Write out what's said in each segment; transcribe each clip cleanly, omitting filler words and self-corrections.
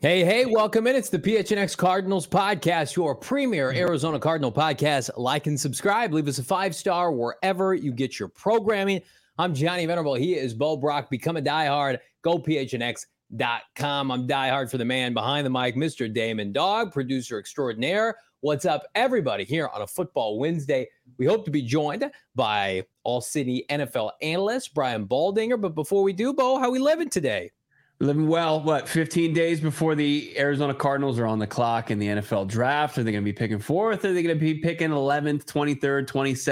Hey, welcome in. It's the PHNX Cardinals podcast, your premier Arizona Cardinal podcast. Like and subscribe. Leave us a 5-star wherever you get your programming. I'm Johnny Venerable. He is Bo Brock. Become a diehard. Go PHNX.com. I'm diehard for the man behind the mic, Mr. Damon Dog, producer extraordinaire. What's up, everybody, here on a Football Wednesday? We hope to be joined by All-City NFL analyst Brian Baldinger. But before we do, Bo, how we living today? Living well. 15 days before the Arizona Cardinals are on the clock in the NFL draft? Are they going to be picking fourth? Are they going to be picking 11th, 23rd,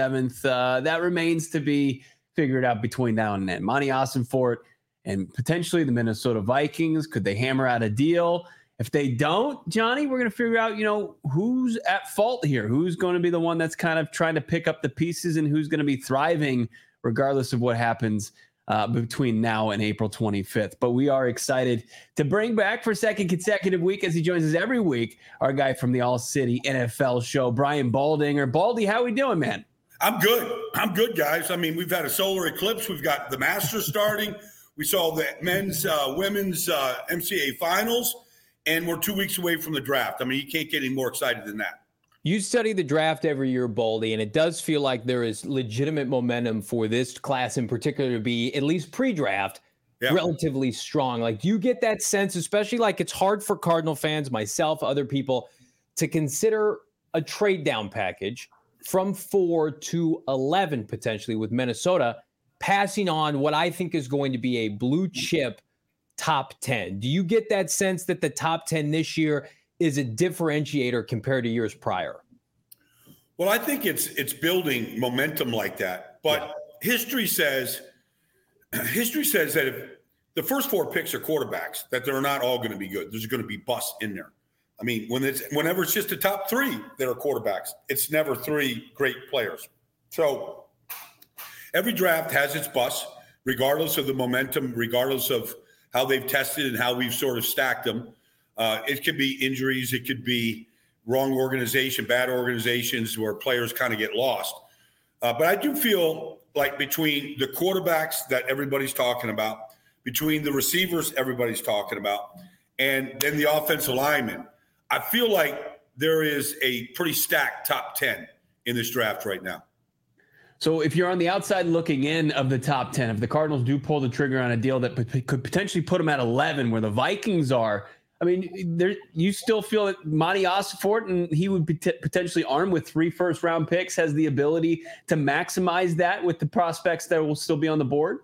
27th? That remains to be figured out between now and then. Monty Ossenfort and potentially the Minnesota Vikings. Could they hammer out a deal? If they don't, Johnny, we're going to figure out, who's at fault here. Who's going to be the one that's kind of trying to pick up the pieces and who's going to be thriving regardless of what happens between now and April 25th. But we are excited to bring back for a second consecutive week, as he joins us every week, our guy from the All-City NFL show, Brian Baldinger. Baldy, how we doing, man? I'm good, guys. I mean, we've had a solar eclipse. We've got the Masters starting. We saw the men's, women's MCAA finals, and we're 2 weeks away from the draft. I mean, you can't get any more excited than that. You study the draft every year, Baldy, and it does feel like there is legitimate momentum for this class in particular to be, at least pre-draft, relatively strong. Like, do you get that sense, especially like it's hard for Cardinal fans, myself, other people, to consider a trade down package from 4 to 11 potentially with Minnesota, passing on what I think is going to be a blue chip top 10. Do you get that sense that the top 10 this year is a differentiator compared to years prior? Well, I think it's building momentum like that. But history says that if the first 4 picks are quarterbacks, that they're not all going to be good. There's going to be busts in there. I mean, whenever it's just the top 3 that are quarterbacks, it's never 3 great players. So every draft has its busts, regardless of the momentum, regardless of how they've tested and how we've sort of stacked them. It could be injuries. It could be wrong organization, bad organizations where players kind of get lost. But I do feel like between the quarterbacks that everybody's talking about, between the receivers everybody's talking about, and then the offensive linemen, I feel like there is a pretty stacked top 10 in this draft right now. So if you're on the outside looking in of the top 10, if the Cardinals do pull the trigger on a deal that could potentially put them at 11 where the Vikings are, I mean, you still feel that Monty Ossenfort, and he would be potentially armed with 3 first-round picks, has the ability to maximize that with the prospects that will still be on the board?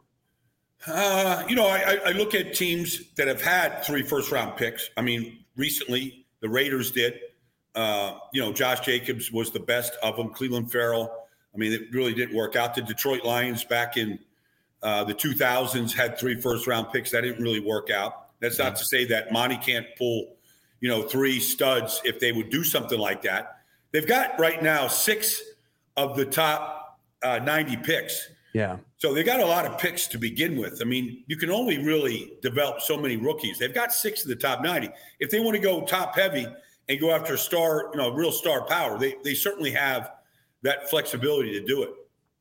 I look at teams that have had 3 first-round picks. I mean, recently the Raiders did. Josh Jacobs was the best of them. Cleveland Farrell. I mean, it really didn't work out. The Detroit Lions back in the 2000s had 3 first-round picks. That didn't really work out. That's not to say that Monty can't pull, 3 studs if they would do something like that. They've got right now 6 of the top 90 picks. Yeah. So they got a lot of picks to begin with. I mean, you can only really develop so many rookies. They've got 6 of the top 90. If they want to go top heavy and go after real star power, they certainly have that flexibility to do it.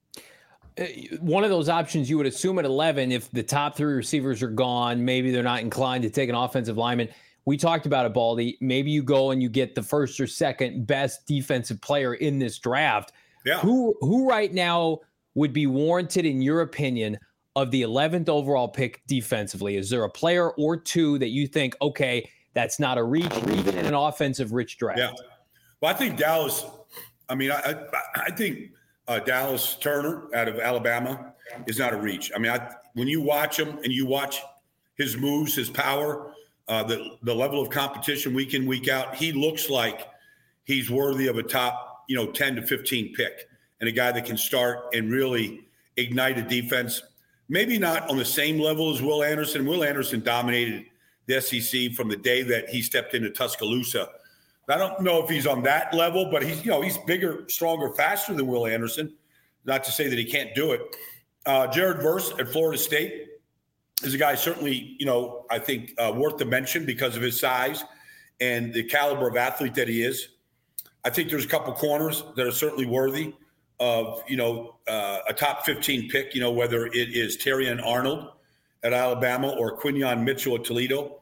One of those options you would assume at 11, if the top 3 receivers are gone, maybe they're not inclined to take an offensive lineman. We talked about it, Baldy. Maybe you go and you get the first or second best defensive player in this draft. Yeah. Who right now would be warranted, in your opinion, of the 11th overall pick defensively? Is there a player or 2 that you think, okay, that's not a reach, even in an offensive-rich draft? Yeah. Well, I think Dallas. I mean, I think Dallas Turner out of Alabama is not a reach. I mean, when you watch him and you watch his moves, his power, the level of competition week in, week out, he looks like he's worthy of a top, 10 to 15 pick and a guy that can start and really ignite a defense. Maybe not on the same level as Will Anderson. Will Anderson dominated the SEC from the day that he stepped into Tuscaloosa. I don't know if he's on that level, but he's bigger, stronger, faster than Will Anderson. Not to say that he can't do it. Jared Verse at Florida State is a guy certainly, I think worth the mention because of his size and the caliber of athlete that he is. I think there's a couple corners that are certainly worthy of, a top 15 pick, whether it is Terrion Arnold at Alabama or Quinyon Mitchell at Toledo.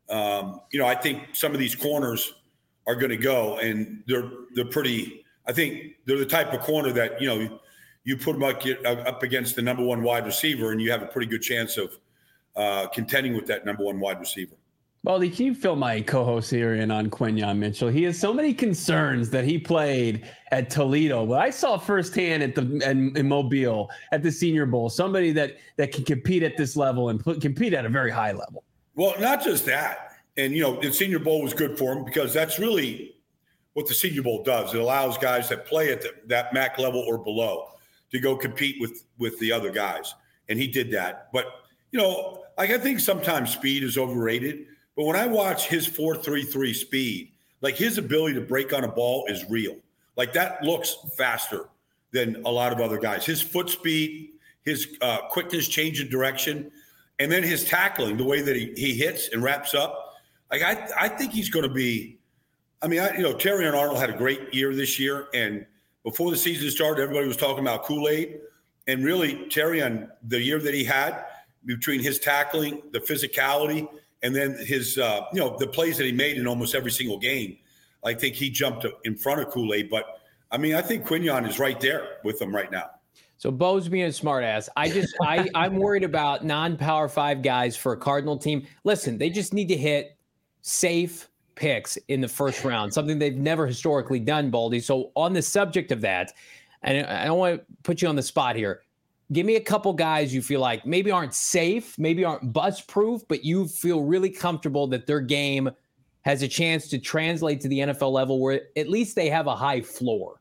I think some of these corners are going to go, and they're pretty. I think they're the type of corner that you put them up against the number one wide receiver, and you have a pretty good chance of contending with that number one wide receiver. Baldy, can you fill my co-host here in on Quinyon Mitchell? He has so many concerns that he played at Toledo, but I saw firsthand in Mobile at the Senior Bowl, somebody that can compete at this level and compete at a very high level. Well, not just that. And, the Senior Bowl was good for him because that's really what the Senior Bowl does. It allows guys that play at that MAC level or below to go compete with the other guys. And he did that. But, I think sometimes speed is overrated. But when I watch his 4.33 speed, like his ability to break on a ball is real. Like that looks faster than a lot of other guys. His foot speed, his quickness, change of direction, and then his tackling, the way that he hits and wraps up. Like I think he's going to be. I mean, Terrion Arnold had a great year this year, and before the season started, everybody was talking about Kool-Aid, and really Terrion, the year that he had between his tackling, the physicality, and then his, the plays that he made in almost every single game, I think he jumped in front of Kool-Aid. But, I mean, I think Quinyon is right there with him right now. So Bo's being a smartass. I'm worried about non-Power 5 guys for a Cardinal team. Listen, they just need to hit safe picks in the first round, something they've never historically done, Baldy. So on the subject of that, and I don't want to put you on the spot here, give me a couple guys you feel like maybe aren't safe, maybe aren't bust-proof, but you feel really comfortable that their game has a chance to translate to the NFL level where at least they have a high floor.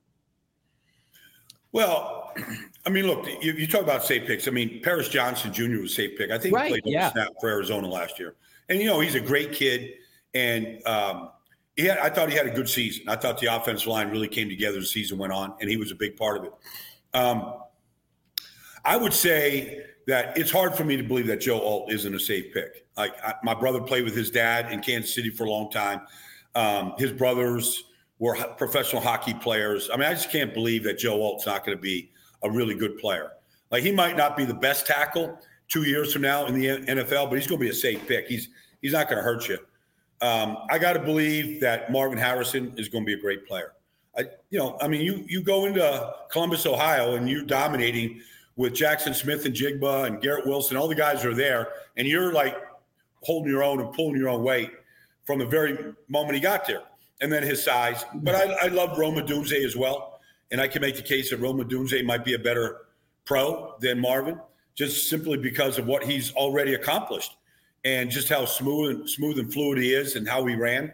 Well, I mean, look, you talk about safe picks. I mean, Paris Johnson Jr. was a safe pick. I think he played on snap for Arizona last year. And, he's a great kid. And I thought he had a good season. I thought the offensive line really came together as the season went on, and he was a big part of it. I would say that it's hard for me to believe that Joe Alt isn't a safe pick. Like my brother played with his dad in Kansas City for a long time. His brothers were professional hockey players. I mean, I just can't believe that Joe Alt's not going to be a really good player. Like he might not be the best tackle 2 years from now in the NFL, but he's going to be a safe pick. He's not going to hurt you. I got to believe that Marvin Harrison is going to be a great player. You go into Columbus, Ohio, and you're dominating with Jackson Smith and Jigba and Garrett Wilson, all the guys are there, and you're like holding your own and pulling your own weight from the very moment he got there. And then his size. But I love Rome Odunze as well, and I can make the case that Rome Odunze might be a better pro than Marvin, just simply because of what he's already accomplished and just how smooth and fluid he is and how he ran.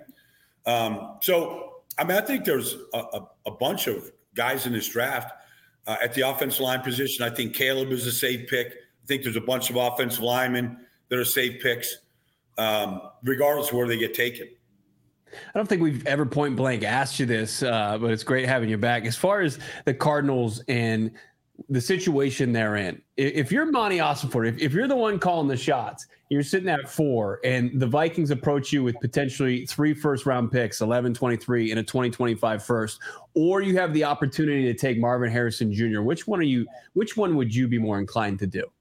I think there's a bunch of guys in this draft at the offensive line position. I think Caleb is a safe pick. I think there's a bunch of offensive linemen that are safe picks, regardless of where they get taken. I don't think we've ever point blank asked you this, but it's great having you back. As far as the Cardinals and the situation they're in, if you're Monty Ossenfort, if you're the one calling the shots, you're sitting at 4 and the Vikings approach you with potentially 3 first-round picks, 11, 23, and a 2025 first, or you have the opportunity to take Marvin Harrison Jr., which one would you be more inclined to do?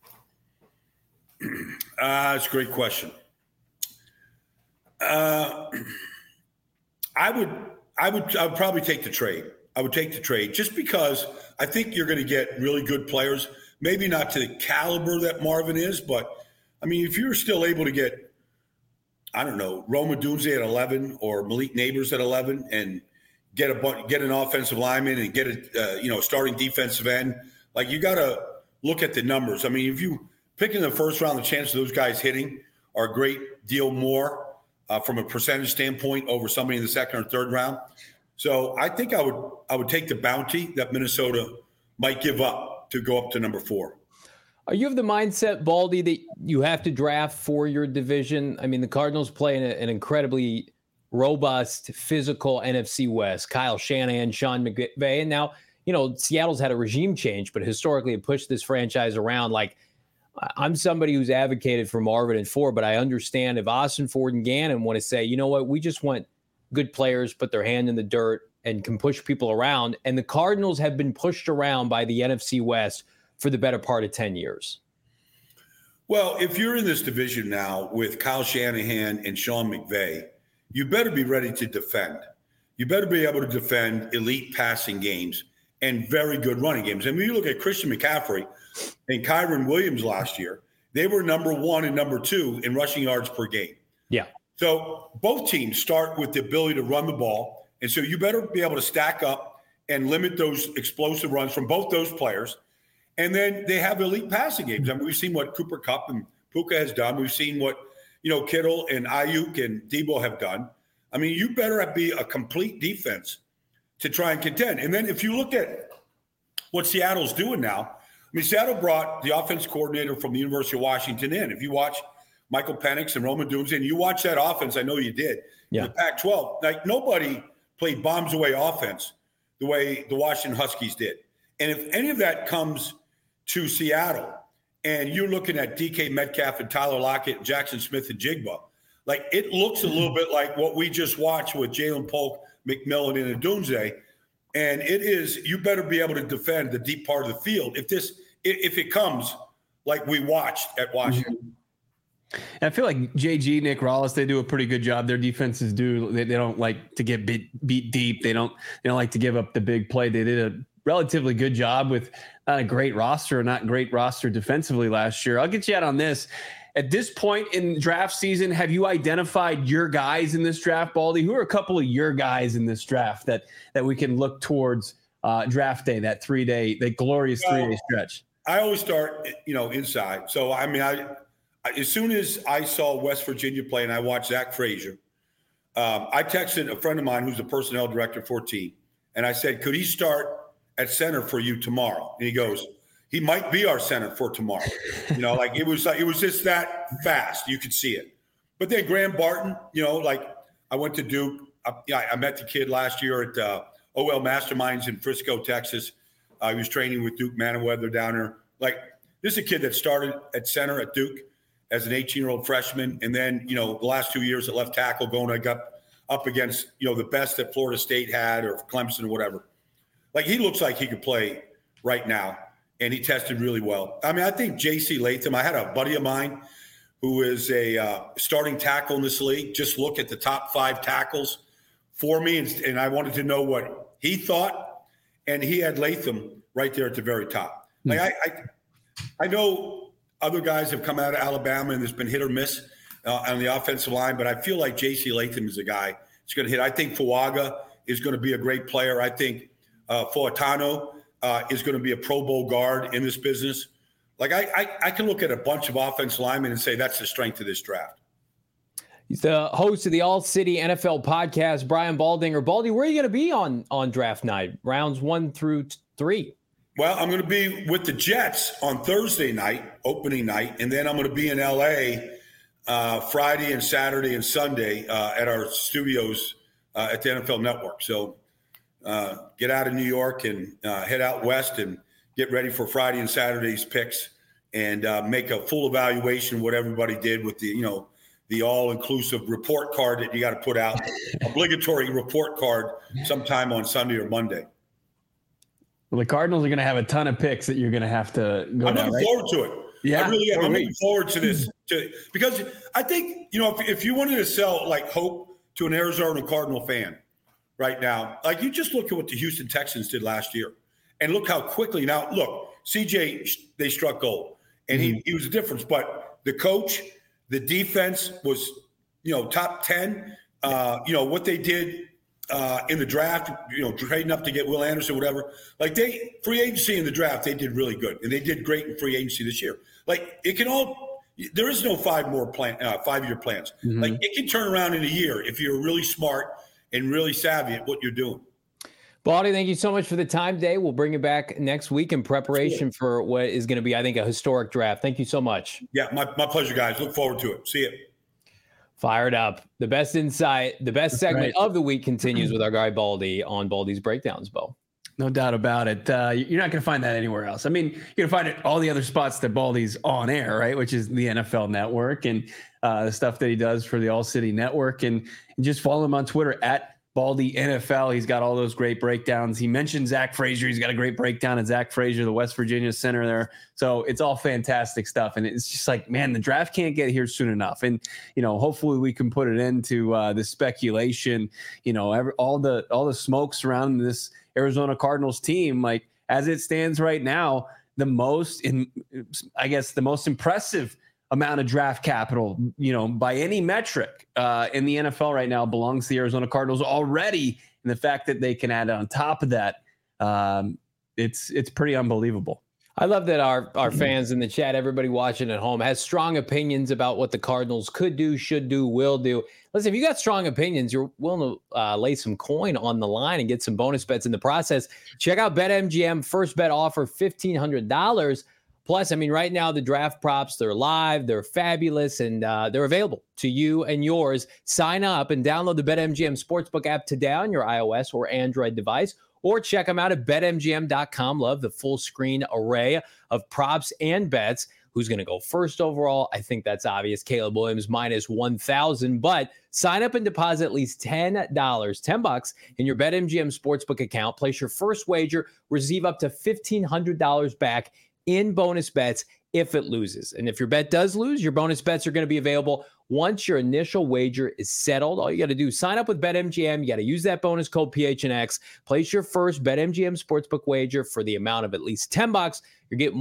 That's a great question. I would probably take the trade. I would take the trade just because I think you're going to get really good players, maybe not to the caliber that Marvin is, but I mean, if you're still able to get, I don't know, Rome Odunze at 11 or Malik Neighbors at 11 and get an offensive lineman and get a starting defensive end, like you got to look at the numbers. I mean, if you pick in the first round, the chance of those guys hitting are a great deal more from a percentage standpoint over somebody in the second or third round. So I think I would take the bounty that Minnesota might give up to go up to number 4. Are you of the mindset, Baldy, that you have to draft for your division? I mean, the Cardinals play in an incredibly robust, physical NFC West. Kyle Shanahan, Sean McVay. And now, Seattle's had a regime change, but historically it pushed this franchise around. Like, I'm somebody who's advocated for Marvin and 4, but I understand if Ossenfort and Gannon want to say, you know what, we just want good players, put their hand in the dirt and can push people around. And the Cardinals have been pushed around by the NFC West for the better part of 10 years. Well, if you're in this division now with Kyle Shanahan and Sean McVay, you better be ready to defend. You better be able to defend elite passing games and very good running games. And when you look at Christian McCaffrey and Kyron Williams last year, they were number 1 and number 2 in rushing yards per game. Yeah. So both teams start with the ability to run the ball. And so you better be able to stack up and limit those explosive runs from both those players. And then they have elite passing games. I mean, we've seen what Cooper Kupp and Puka has done. We've seen what, Kittle and Ayuk and Debo have done. I mean, you better be a complete defense to try and contend. And then if you look at what Seattle's doing now, I mean, Seattle brought the offense coordinator from the University of Washington in. If you watch Michael Penix and Roman Dooms, and you watch that offense, I know you did, in the Pac-12, like nobody played bombs away offense the way the Washington Huskies did. And if any of that comes to Seattle, and you're looking at DK Metcalf and Tyler Lockett, Jackson Smith and Jigba, like it looks a little bit like what we just watched with Jalen Polk, McMillan, and Odunze. And it is, you better be able to defend the deep part of the field if it comes like we watched at Washington. And I feel like JG, Nick Rallis, they do a pretty good job. Their defenses do. They don't like to get beat deep. They don't like to give up the big play. They did a relatively good job with not a great roster, defensively last year. I'll get you out on this. At this point in draft season, have you identified your guys in this draft, Baldy? Who are a couple of your guys in this draft that we can look towards draft day, that glorious 3-day stretch? I always start, inside. So, I mean, as soon as I saw West Virginia play and I watched Zach Frazier, I texted a friend of mine who's the personnel director for team, and I said, could he start at center for you tomorrow? And he goes, he might be our center for tomorrow. It was just that fast. You could see it. But then Graham Barton, I went to Duke. I met the kid last year at OL Masterminds in Frisco, Texas. He was training with Duke Manoweather down there. This is a kid that started at center at Duke as an 18-year-old freshman. And then, the last 2 years at left tackle I got up against, the best that Florida State had or Clemson or whatever. He looks like he could play right now. And he tested really well. I mean, I think J.C. Latham, I had a buddy of mine who is a starting tackle in this league. Just look at the top 5 tackles for me. And I wanted to know what he thought. And he had Latham right there at the very top. I know other guys have come out of Alabama and there's been hit or miss on the offensive line, but I feel like J.C. Latham is a guy that's going to hit. I think Fuaga is going to be a great player. I think Fuatano is going to be a Pro Bowl guard in this business. I can look at a bunch of offensive linemen and say that's the strength of this draft. He's the host of the All City NFL podcast, Brian Baldinger. Baldy, where are you going to be on draft night, rounds 1 through 3? Well, I'm going to be with the Jets on Thursday night, opening night, and then I'm going to be in L.A. Friday and Saturday and Sunday at our studios at the NFL Network. So get out of New York and head out west and get ready for Friday and Saturday's picks and make a full evaluation of what everybody did with the all-inclusive report card that you got to put out, obligatory report card sometime on Sunday or Monday. Well, the Cardinals are going to have a ton of picks that you're going to have to go I'm looking forward to it. Yeah, I really am. I'm looking forward to this because I think, if you wanted to sell hope to an Arizona Cardinal fan right now, you just look at what the Houston Texans did last year and look how quickly now, look, CJ, they struck gold and he was a difference, but the coach, the defense was, top 10, what they did in the draft, trading up to get Will Anderson, whatever, free agency in the draft, they did really good. And they did great in free agency this year. There is no 5-year plans. Mm-hmm. It can turn around in a year if you're really smart and really savvy at what you're doing. Baldy, thank you so much for the time today. We'll bring you back next week in preparation for what is going to be, I think, a historic draft. Thank you so much. Yeah, my pleasure, guys. Look forward to it. See you. Fired up. The best insight, the best segment of the week continues with our guy Baldy on Baldy's Breakdowns, Bo. No doubt about it. You're not going to find that anywhere else. I mean, you're going to find it all the other spots that Baldy's on air, right? Which is the NFL Network and the stuff that he does for the All City Network. And just follow him on Twitter at Baldy NFL. He's got all those great breakdowns. He mentioned Zach Frazier. He's got a great breakdown at Zach Frazier, the West Virginia center there. So it's all fantastic stuff. And it's just like, man, the draft can't get here soon enough. And, hopefully we can put it into the speculation, all the smoke surrounding this Arizona Cardinals team. Like, as it stands right now, the most impressive amount of draft capital, by any metric in the NFL right now belongs to the Arizona Cardinals already. And the fact that they can add on top of that, it's pretty unbelievable. I love that our fans in the chat, everybody watching at home, has strong opinions about what the Cardinals could do, should do, will do. Listen, if you got strong opinions, you're willing to lay some coin on the line and get some bonus bets in the process, check out BetMGM. First bet offer $1,500. Plus, right now the draft props, they're live, they're fabulous, and they're available to you and yours. Sign up and download the BetMGM Sportsbook app today on your iOS or Android device, or check them out at BetMGM.com. Love the full screen array of props and bets. Who's going to go first overall? I think that's obvious. Caleb Williams minus 1,000, but sign up and deposit at least $10 in your BetMGM Sportsbook account. Place your first wager, receive up to $1,500 back in bonus bets if it loses. And if your bet does lose, your bonus bets are going to be available once your initial wager is settled. All you got to do is sign up with BetMGM. You got to use that bonus code PHNX. Place your first BetMGM Sportsbook wager for the amount of at least $10. You're getting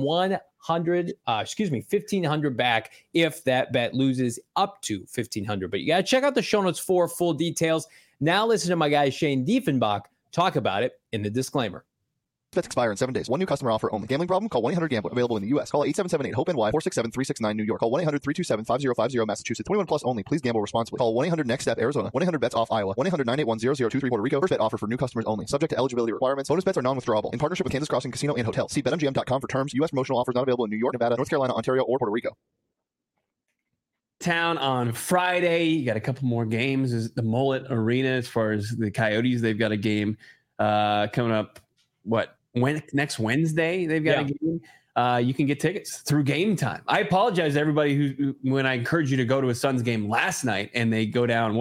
$1,500 back if that bet loses, up to $1,500. But you got to check out the show notes for full details. Now listen to my guy Shane Diefenbach talk about it in the disclaimer. Bets expire in 7 days. One new customer offer only. Gambling problem? Call 1-800-GAMBLER. Available in the U.S. Call 877-8-HOPE-NY 467-369 New York. Call 1-800-327-5050 Massachusetts. 21 plus only. Please gamble responsibly. Call 1-800-NEXT-STEP Arizona. 1-800-BETS-OFF Iowa. 1-800-981-0023 Puerto Rico. First bet offer for new customers only. Subject to eligibility requirements. Bonus bets are non-withdrawable. In partnership with Kansas Crossing Casino and Hotel. See BetMGM.com for terms. U.S. promotional offers not available in New York, Nevada, North Carolina, Ontario, or Puerto Rico. Town on Friday. You got a couple more games. Is the Mullet Arena as far as the Coyotes. They've got a game coming up. Next Wednesday they've got a game. You can get tickets through Game Time. I apologize to everybody who when I encouraged you to go to a Suns game last night and they go down,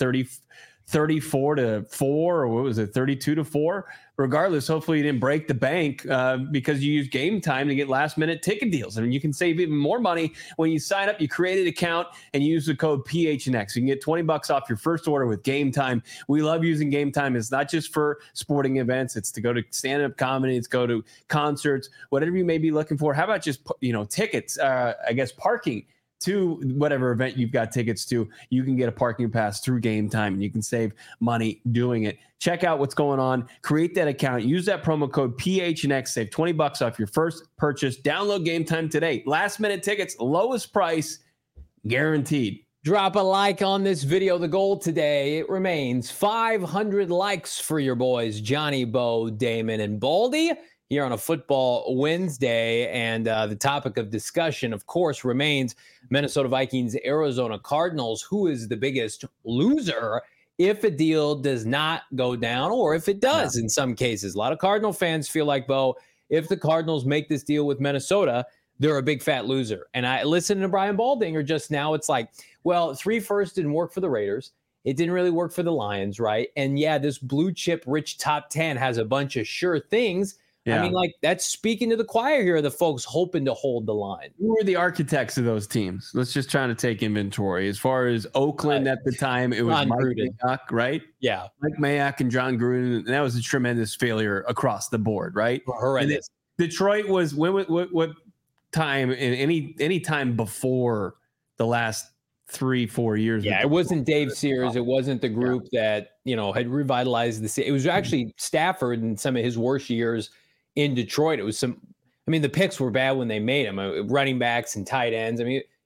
34-4, or what was it, 32-4? Regardless, hopefully you didn't break the bank because you use Game Time to get last-minute ticket deals. You can save even more money when you sign up. You create an account and use the code PHNX. You can get $20 off your first order with Game Time. We love using Game Time. It's not just for sporting events. It's to go to stand-up comedy. It's go to concerts, whatever you may be looking for. How about just tickets? Parking to whatever event you've got tickets to. You can get a parking pass through Game Time, and you can save money doing it. Check out what's going on. Create that account. Use that promo code PHNX. Save $20 off your first purchase. Download Game Time today. Last minute tickets, lowest price, guaranteed. Drop a like on this video. The goal today, it remains 500 likes for your boys, Johnny, Bo, Damon, and Baldy, here on a Football Wednesday. And the topic of discussion, of course, remains Minnesota Vikings, Arizona Cardinals. Who is the biggest loser if a deal does not go down, or if it does in some cases? A lot of Cardinal fans feel like, Bo, if the Cardinals make this deal with Minnesota, they're a big fat loser. And I listened to Brian Baldinger just now. It's like, well, 3 firsts didn't work for the Raiders. It didn't really work for the Lions, right? And yeah, this blue chip rich top 10 has a bunch of sure things. Yeah. That's speaking to the choir here, the folks hoping to hold the line. Who were the architects of those teams? Let's just try to take inventory. As far as Oakland at the time, it was Mike Mayock, right? Yeah. Mike Mayock and John Gruden. And that was a tremendous failure across the board, right? Horrendous. Detroit was what time in any time before the last 3-4 years? Yeah, it wasn't Dave Sears. It wasn't the group that, had revitalized the city. It was actually Stafford in some of his worst years in Detroit. It was the picks were bad when they made them. Running backs and tight ends.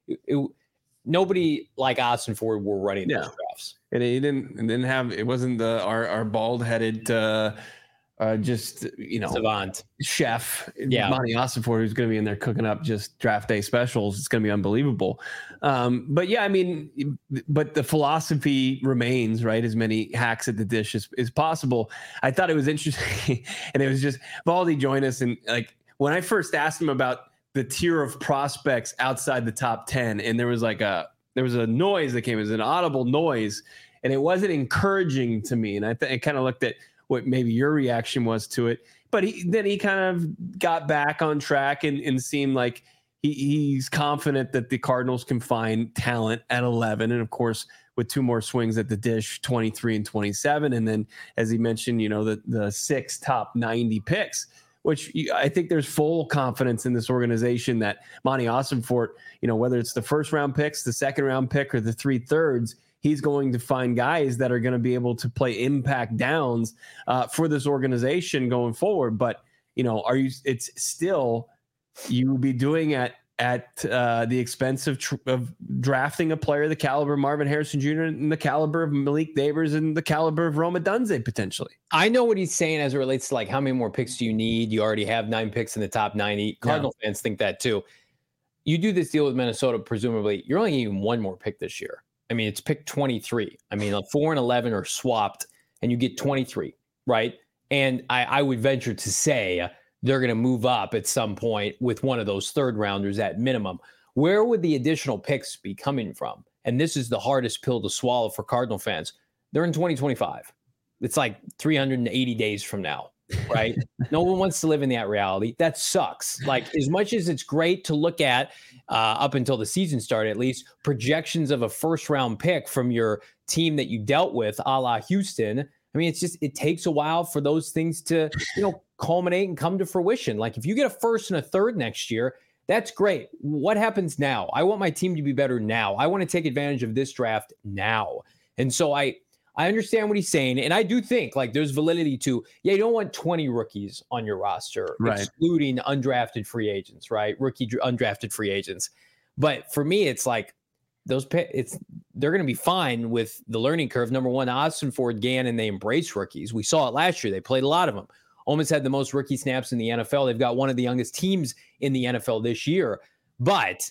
Nobody like Austin Ford were running those drafts. And it wasn't our bald-headed savant chef, Monty Austin Ford, who's going to be in there cooking up just draft day specials. It's going to be unbelievable. But the philosophy remains, right? As many hacks at the dish as possible. I thought it was interesting. And it was just Baldy joined us. And when I first asked him about the tier of prospects outside the top 10, and there was a noise that came as an audible noise. and it wasn't encouraging to me. And I kind of looked at what maybe your reaction was to it, but he kind of got back on track and seemed like he's confident that the Cardinals can find talent at 11. And of course, with 2 more swings at the dish, 23 and 27. And then, as he mentioned, the 6 top 90 picks, which I think there's full confidence in this organization that Monty Ossenfort, whether it's the first round picks, the second round pick, or the 3/3, he's going to find guys that are going to be able to play impact downs for this organization going forward. But, it's still, you will be doing at the expense of drafting a player the caliber of Marvin Harrison Jr. and the caliber of Malik Neighbors and the caliber of Rome Odunze potentially. I know what he's saying as it relates to like how many more picks do you need? You already have 9 picks in the top 90. Cardinal fans think that too. You do this deal with Minnesota, presumably you're only getting 1 more pick this year. I mean, it's pick 23. I mean, 4 and 11 are swapped and you get 23, right? And I would venture to say they're going to move up at some point with one of those 3rd rounders at minimum. Where would the additional picks be coming from? And this is the hardest pill to swallow for Cardinal fans. They're in 2025. It's like 380 days from now, right? No one wants to live in that reality. That sucks. Like, as much as it's great to look at up until the season started, at least projections of a 1st round pick from your team that you dealt with, a la Houston. I mean, it takes a while for those things to, culminate and come to fruition. Like, if you get a 1st and a 3rd next year, that's great. What happens now? I want my team to be better now. I want to take advantage of this draft now. And so I understand what he's saying. And I do think like there's validity to, you don't want 20 rookies on your roster, right, excluding undrafted free agents, right? Undrafted free agents. But for me, it's like they're going to be fine with the learning curve. Number one, Ossenfort, Gannon, they embrace rookies. We saw it last year. They played a lot of them. Almost had the most rookie snaps in the NFL. They've got one of the youngest teams in the NFL this year, but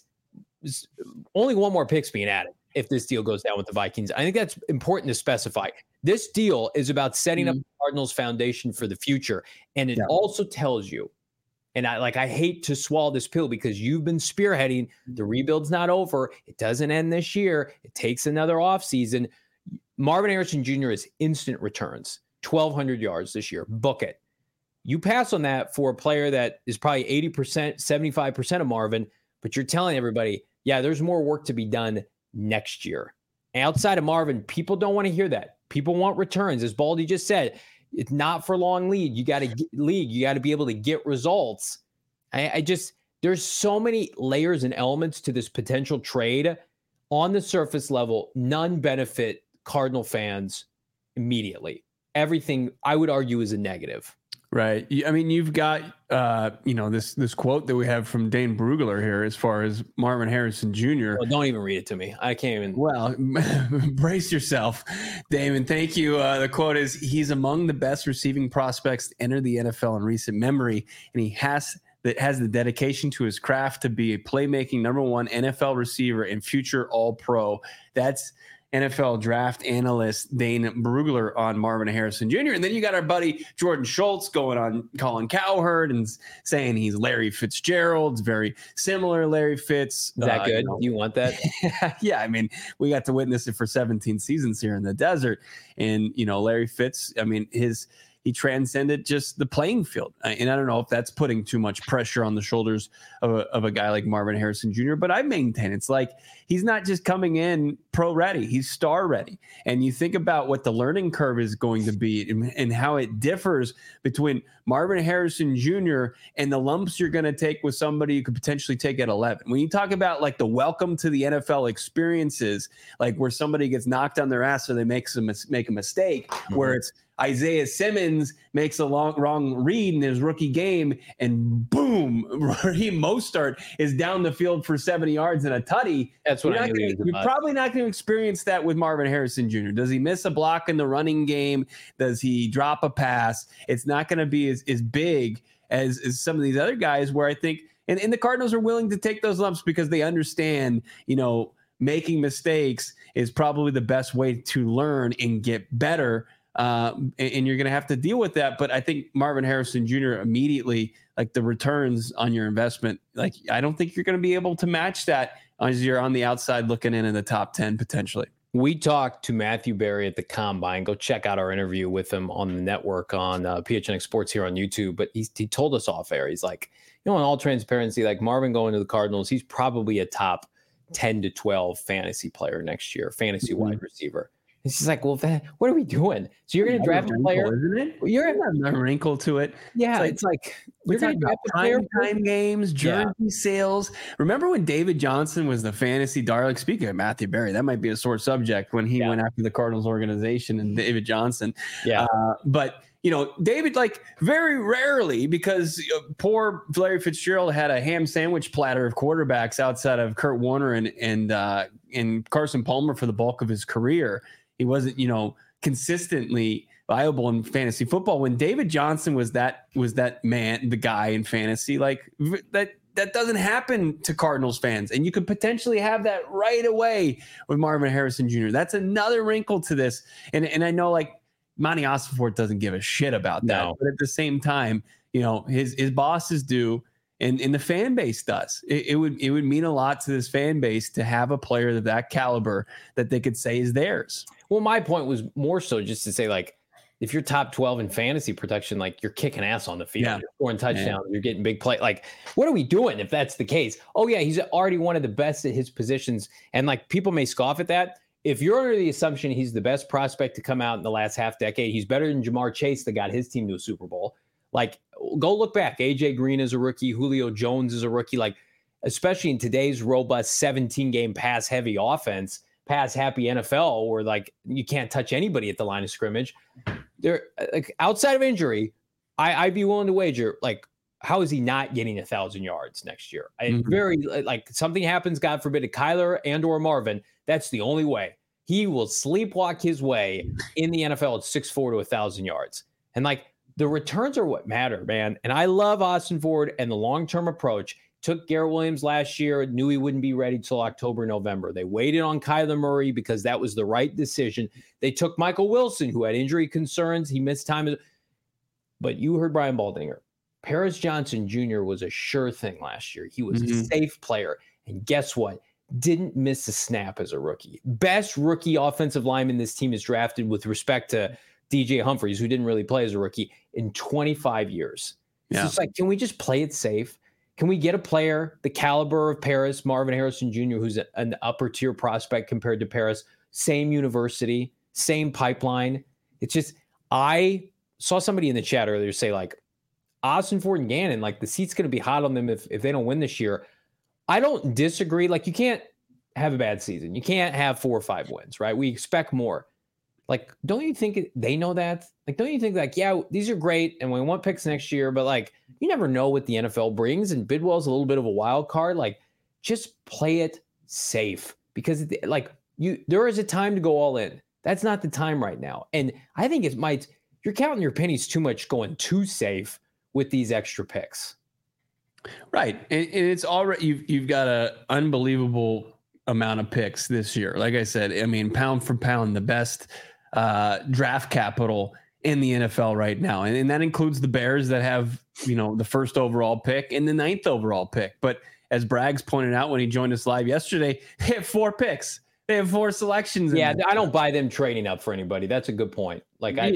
only 1 more pick's being added if this deal goes down with the Vikings. I think that's important to specify. This deal is about setting up the Cardinals' foundation for the future. And it also tells you, and I hate to swallow this pill because you've been spearheading, the rebuild's not over. It doesn't end this year. It takes another offseason. Marvin Harrison Jr. is instant returns, 1,200 yards this year. Book it. You pass on that for a player that is probably 80%, 75% of Marvin, but you're telling everybody, there's more work to be done next year. Outside of Marvin, people don't want to hear that. People want returns. As Baldy just said, it's not for long lead. You got to be able to get results. There's so many layers and elements to this potential trade. On the surface level, none benefit Cardinal fans immediately. Everything, I would argue, is a negative. Right. I mean, you've got, this quote that we have from Dane Brugler here as far as Marvin Harrison Jr. Well, don't even read it to me. I can't even. Well, brace yourself, Damon. Thank you. The quote is, he's among the best receiving prospects to enter the NFL in recent memory, and he has the dedication to his craft to be a playmaking number 1 NFL receiver and future All-Pro. That's NFL draft analyst Dane Brugler on Marvin Harrison Jr. And then you got our buddy Jordan Schultz going on Colin Cowherd and saying he's Larry Fitzgerald's very similar Larry Fitz. Is that good? You want that? Yeah. I mean, we got to witness it for 17 seasons here in the desert. And, Larry Fitz, I mean, he transcended just the playing field. And I don't know if that's putting too much pressure on the shoulders of a guy like Marvin Harrison Jr., but I maintain it's like he's not just coming in pro ready, he's star ready. And you think about what the learning curve is going to be and how it differs between Marvin Harrison Jr. and the lumps you're going to take with somebody you could potentially take at 11. When you talk about like the welcome to the NFL experiences, like where somebody gets knocked on their ass so they make a mistake, where it's Isaiah Simmons makes a wrong read in his rookie game, and boom, Raheem Mostert is down the field for 70 yards and a tutty. That's what you're probably not going to experience that with Marvin Harrison Jr. Does he miss a block in the running game? Does he drop a pass? It's not going to be as big as some of these other guys where I think, and the Cardinals are willing to take those lumps because they understand, making mistakes is probably the best way to learn and get better. And you're going to have to deal with that. But I think Marvin Harrison Jr. immediately, like the returns on your investment, like I don't think you're going to be able to match that as you're on the outside looking in the top 10 potentially. We talked to Matthew Berry at the Combine. Go check out our interview with him on the network on PHNX Sports here on YouTube. But he told us off air, he's like, in all transparency, like Marvin going to the Cardinals, he's probably a top 10 to 12 fantasy player next year, fantasy wide receiver. It's just like, well, what are we doing? So you're going to draft a player, isn't it? You're a wrinkle to it. Yeah, it's like we're talking about prime time games, jersey sales. Remember when David Johnson was the fantasy darling? Speaking of Matthew Berry, that might be a sore subject when he went after the Cardinals organization and David Johnson. Yeah, but David, like very rarely, because poor Larry Fitzgerald had a ham sandwich platter of quarterbacks outside of Kurt Warner and Carson Palmer for the bulk of his career. He wasn't, consistently viable in fantasy football. When David Johnson was that man, the guy in fantasy, like that doesn't happen to Cardinals fans. And you could potentially have that right away with Marvin Harrison Jr. That's another wrinkle to this. And I know like Monty Ossenfort doesn't give a shit about that. No. But at the same time, his bosses do. And the fan base does. It would mean a lot to this fan base to have a player of that caliber that they could say is theirs. Well, my point was more so just to say, like, if you're top 12 in fantasy production, like you're kicking ass on the field, you're scoring touchdowns, you're getting big play. Like, what are we doing if that's the case? Oh, yeah, he's already one of the best at his positions. And like people may scoff at that. If you're under the assumption he's the best prospect to come out in the last half decade, he's better than Jamar Chase that got his team to a Super Bowl. Like, go look back. AJ Green is a rookie. Julio Jones is a rookie. Like, especially in today's robust 17-game pass-heavy offense, pass-happy NFL, where like you can't touch anybody at the line of scrimmage. They're like outside of injury, I'd be willing to wager like, how is he not getting 1,000 yards next year? Very like something happens, God forbid, to Kyler and or Marvin. That's the only way he will sleepwalk his way in the NFL at 6'4" to 1,000 yards. And like, the returns are what matter, man. And I love Ossenfort and the long-term approach. Took Garrett Williams last year, knew he wouldn't be ready till October, November. They waited on Kyler Murray because that was the right decision. They took Michael Wilson, who had injury concerns. He missed time. But you heard Brian Baldinger. Paris Johnson Jr. was a sure thing last year. He was a safe player. And guess what? Didn't miss a snap as a rookie. Best rookie offensive lineman this team has drafted with respect to DJ Humphries, who didn't really play as a rookie, in 25 years. It's just like, can we just play it safe? Can we get a player the caliber of Paris, Marvin Harrison Jr., who's an upper tier prospect compared to Paris, same university, same pipeline? It's just, I saw somebody in the chat earlier say like, Ossenfort and Gannon, like the seat's going to be hot on them if they don't win this year. I don't disagree. Like, you can't have a bad season. You can't have 4 or 5 wins, right? We expect more. Like, don't you think they know that? Like, don't you think like, yeah, these are great and we want picks next year, but like, you never know what the NFL brings, and Bidwell's a little bit of a wild card. Like, just play it safe, because like there is a time to go all in. That's not the time right now. And I think you're counting your pennies too much going too safe with these extra picks. Right. And it's already, you've got an unbelievable amount of picks this year. Like I said, I mean, pound for pound, the best draft capital in the NFL right now. And that includes the Bears that have, the first overall pick and the 9th overall pick. But as Braggs pointed out when he joined us live yesterday, they have 4 picks. They have 4 selections. Yeah, I don't buy them trading up for anybody. That's a good point. Like, I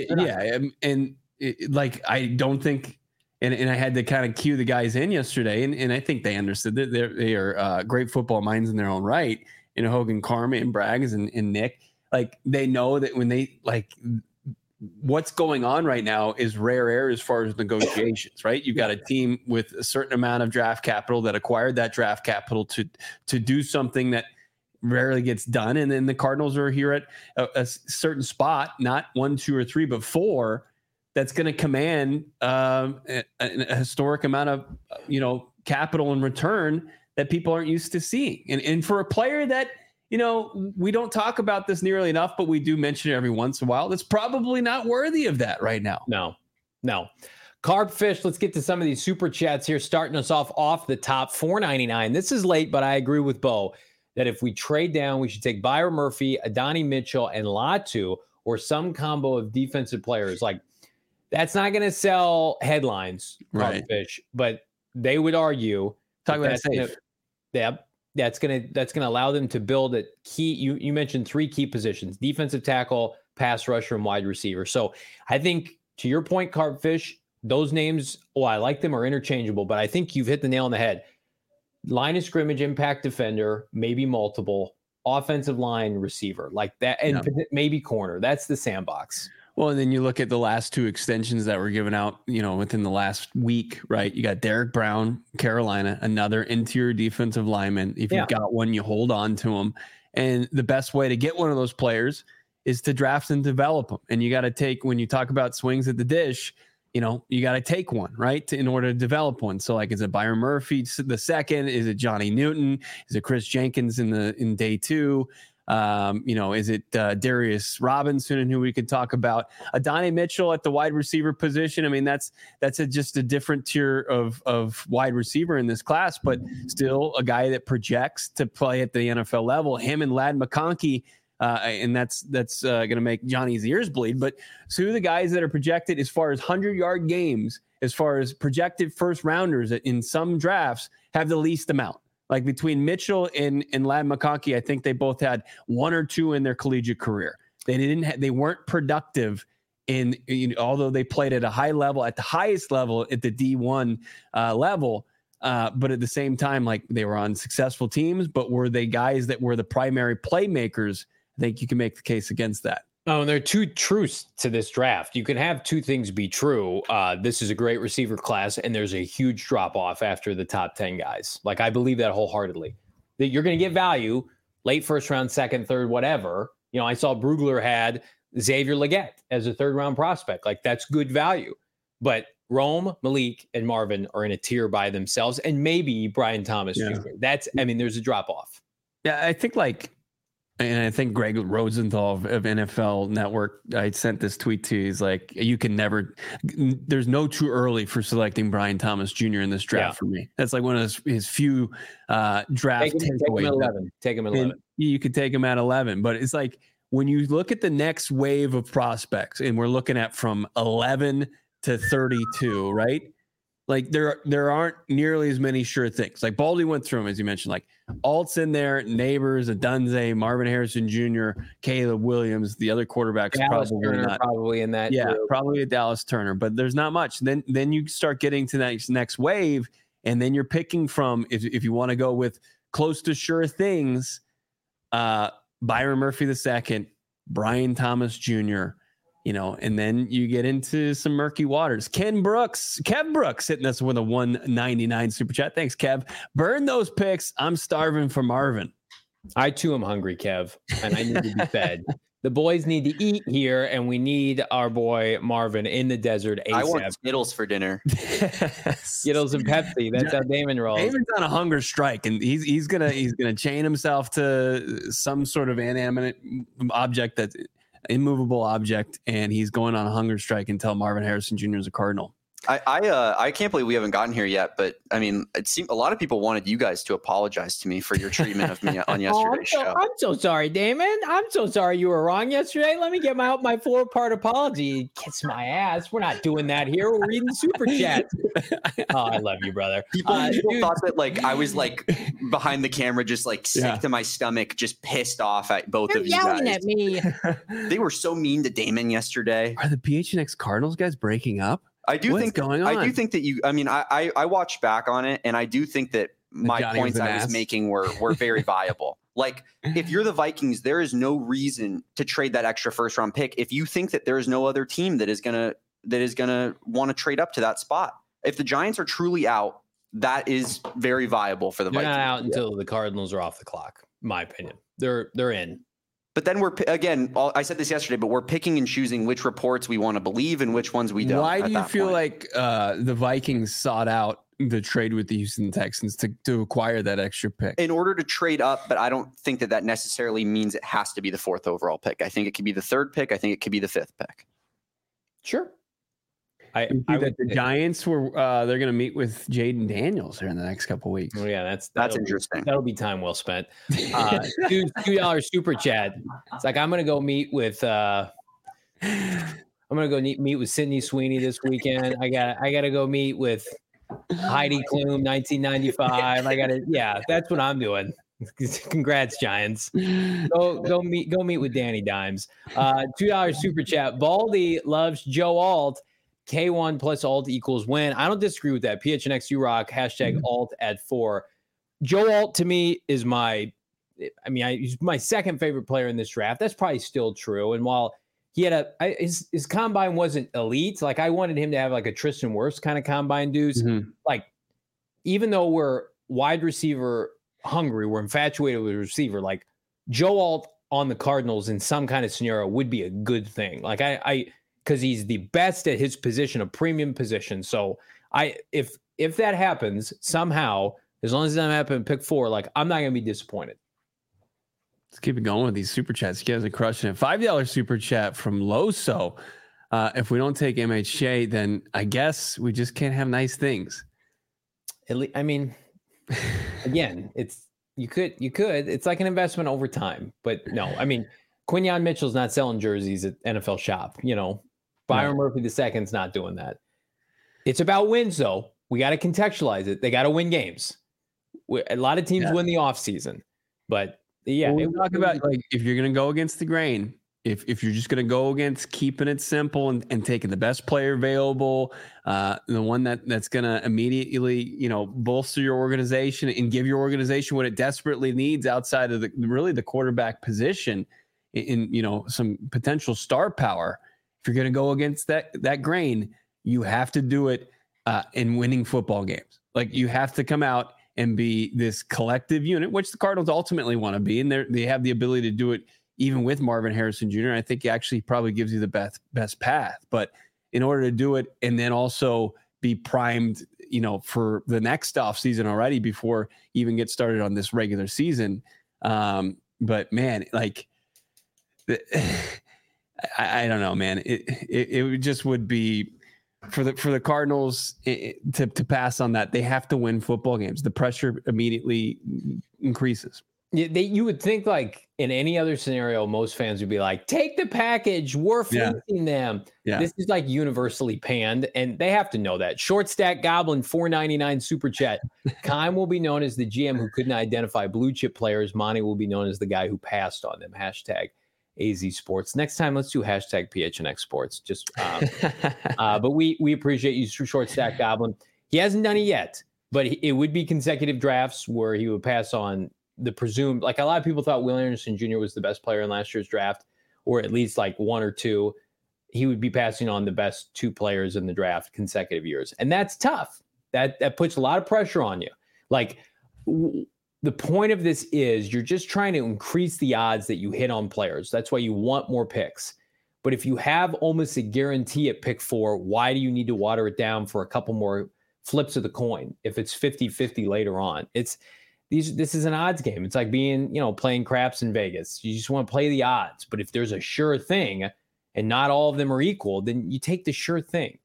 don't think, and I had to kind of cue the guys in yesterday, and I think they understood that they are great football minds in their own right. Hogan, Carmen, and Braggs and Nick, like, they know that when they like, what's going on right now is rare air as far as negotiations, right? You've got a team with a certain amount of draft capital that acquired that draft capital to do something that rarely gets done. And then the Cardinals are here at a certain spot, not 1, 2, or 3, but 4, that's going to command a historic amount of, capital in return that people aren't used to seeing. And for a player that, we don't talk about this nearly enough, but we do mention it every once in a while, that's probably not worthy of that right now. No. Carbfish, let's get to some of these super chats here, starting us off the top. $4.99. This is late, but I agree with Bo that if we trade down, we should take Byron Murphy, Adonai Mitchell, and Latu, or some combo of defensive players. Like, that's not going to sell headlines, right? Carbfish, but they would argue talk about safe. that's gonna allow them to build at key. You mentioned 3 key positions: defensive tackle, pass rusher, and wide receiver. So I think, to your point, Carpfish, those names, I like them, are interchangeable, but I think you've hit the nail on the head. Line of scrimmage, impact defender, maybe multiple, offensive line, receiver, like that, and maybe corner. That's the sandbox. Well, and then you look at the last 2 extensions that were given out, within the last week, right? You got Derek Brown, Carolina, another interior defensive lineman. If you've got one, you hold on to him. And the best way to get one of those players is to draft and develop them. And you got to take, when you talk about swings at the dish, you got to take one, right? In order to develop one. So like, is it Byron Murphy the second? Is it Johnny Newton? Is it Chris Jenkins in day 2? Is it Darius Robinson, who we could talk about? Adonai Mitchell at the wide receiver position. I mean, that's just a different tier of wide receiver in this class, but still a guy that projects to play at the NFL level. Him and Ladd McConkey, and that's going to make Johnny's ears bleed. But 2 of the guys that are projected as far as 100-yard games, as far as projected first rounders in some drafts, have the least amount. Like between Mitchell and Ladd McConkey, I think they both had 1 or 2 in their collegiate career. They weren't productive although they played at a high level, at the highest level, at the D1 level. But at the same time, like, they were on successful teams, but were they guys that were the primary playmakers? I think you can make the case against that. Oh, and there are 2 truths to this draft. You can have 2 things be true. This is a great receiver class, and there's a huge drop-off after the top 10 guys. Like, I believe that wholeheartedly. That you're going to get value, late first round, second, third, whatever. I saw Brugler had Xavier Legette as a third-round prospect. Like, that's good value. But Rome, Malik, and Marvin are in a tier by themselves, and maybe Brian Thomas Jr. There's a drop-off. Yeah, I think, and I think Greg Rosenthal of NFL Network, I sent this tweet to you. He's like, there's no too early for selecting Brian Thomas Jr. in this draft for me. That's like one of his few draft takeaways. Take him at 11. You could take him at 11, but it's like, when you look at the next wave of prospects, and we're looking at from 11 to 32, right? Like, there aren't nearly as many sure things. Like, Baldy went through them, as you mentioned, like Alt's in there, Neighbors, Adunze, Marvin Harrison Jr., Caleb Williams, the other quarterbacks probably in that. Yeah, group. Probably a Dallas Turner, but there's not much. Then you start getting to that next wave, and then you're picking from, if you want to go with close to sure things, Byron Murphy II, Brian Thomas Jr., and then you get into some murky waters. Kev Brooks hitting us with a $1.99 super chat. Thanks, Kev. Burn those picks. I'm starving for Marvin. I too am hungry, Kev, and I need to be fed. The boys need to eat here, and we need our boy Marvin in the desert ASAP. I want Skittles for dinner. Skittles and Pepsi. That's how Damon rolls. Damon's on a hunger strike, and he's gonna chain himself to some sort of inanimate object, that's immovable object, and he's going on a hunger strike until Marvin Harrison Jr. is a Cardinal. I can't believe we haven't gotten here yet, but I mean, it seemed a lot of people wanted you guys to apologize to me for your treatment of me on yesterday's show. I'm so sorry, Damon. I'm so sorry you were wrong yesterday. Let me get my 4-part apology. Kiss my ass. We're not doing that here. We're reading super chats. Oh, I love you, brother. People thought that, like, I was like behind the camera, just like sick to my stomach, just pissed off at both of you guys. Yelling at me. They were so mean to Damon yesterday. Are the PHNX Cardinals guys breaking up? I do think going on? I do think that I watched back on it, and I do think that my points I was making were very viable. Like, if you're the Vikings, there is no reason to trade that extra first round pick if you think that there is no other team that is gonna want to trade up to that spot. If the Giants are truly out, that is very viable for the Vikings. They're not out until the Cardinals are off the clock, in my opinion. They're in. But then I said this yesterday, but we're picking and choosing which reports we want to believe and which ones we don't. Why do you feel like the Vikings sought out the trade with the Houston Texans to acquire that extra pick? In order to trade up, but I don't think that necessarily means it has to be the 4th overall pick. I think it could be the 3rd pick. I think it could be the 5th pick. Sure. I that the Giants were they're going to meet with Jaden Daniels here in the next couple of weeks. Oh yeah, that's interesting. That'll be time well spent. $2 super chat. It's like, I'm going to go meet with meet with Sydney Sweeney this weekend. I got to go meet with Heidi Klum 1995. That's what I'm doing. Congrats, Giants. Go meet with Danny Dimes. $2 super chat. Baldy loves Joe Alt. K1 plus alt equals win. I don't disagree with that. PHNX rock. # alt at 4. Joe Alt to me is he's my second favorite player in this draft. That's probably still true. And while he had his combine wasn't elite, like I wanted him to have like a Tristan Wirfs kind of combine dudes. Like, even though we're wide receiver hungry, we're infatuated with a receiver, like Joe Alt on the Cardinals in some kind of scenario would be a good thing. Like because he's the best at his position, a premium position. So if that happens somehow, as long as it doesn't happen in pick 4, like I'm not going to be disappointed. Let's keep it going with these super chats. You guys are crushing it. $5 super chat from Loso. If we don't take MHJ, then I guess we just can't have nice things. Again, you could. It's like an investment over time, but no. Quinyon Mitchell's not selling jerseys at NFL Shop. Byron Murphy II's not doing that. It's about wins, though. We got to contextualize it. They got to win games. A lot of teams win the offseason, but yeah. We talk about like if you're going to go against the grain, if you're just going to go against keeping it simple and taking the best player available, the one that's going to immediately, bolster your organization and give your organization what it desperately needs outside of the quarterback position in some potential star power. If you're going to go against that grain, you have to do it in winning football games. Like you have to come out and be this collective unit, which the Cardinals ultimately want to be. And they have the ability to do it even with Marvin Harrison Jr. I think he actually probably gives you the best path. But in order to do it and then also be primed, for the next offseason already before you even get started on this regular season. But man, like I don't know, man. It just would be for the Cardinals to pass on that. They have to win football games. The pressure immediately increases. You would think like in any other scenario, most fans would be like, take the package. We're fleecing them. Yeah. This is like universally panned, and they have to know that. Short Stack Goblin, $4.99 super chat. Kime will be known as the GM who couldn't identify blue chip players. Monty will be known as the guy who passed on them. # AZ Sports. Next time, let's do # PHNX Sports. Just, but we appreciate you, Short Stack Goblin. He hasn't done it yet, but it would be consecutive drafts where he would pass on the presumed, like a lot of people thought Will Anderson Jr. was the best player in last year's draft, or at least like one or two. He would be passing on the best 2 players in the draft consecutive years. And that's tough. That puts a lot of pressure on you. Like the point of this is you're just trying to increase the odds that you hit on players. That's why you want more picks. But if you have almost a guarantee at pick 4, why do you need to water it down for a couple more flips of the coin if it's 50-50 later on? This is an odds game. It's like being, playing craps in Vegas. You just want to play the odds. But if there's a sure thing and not all of them are equal, then you take the sure thing.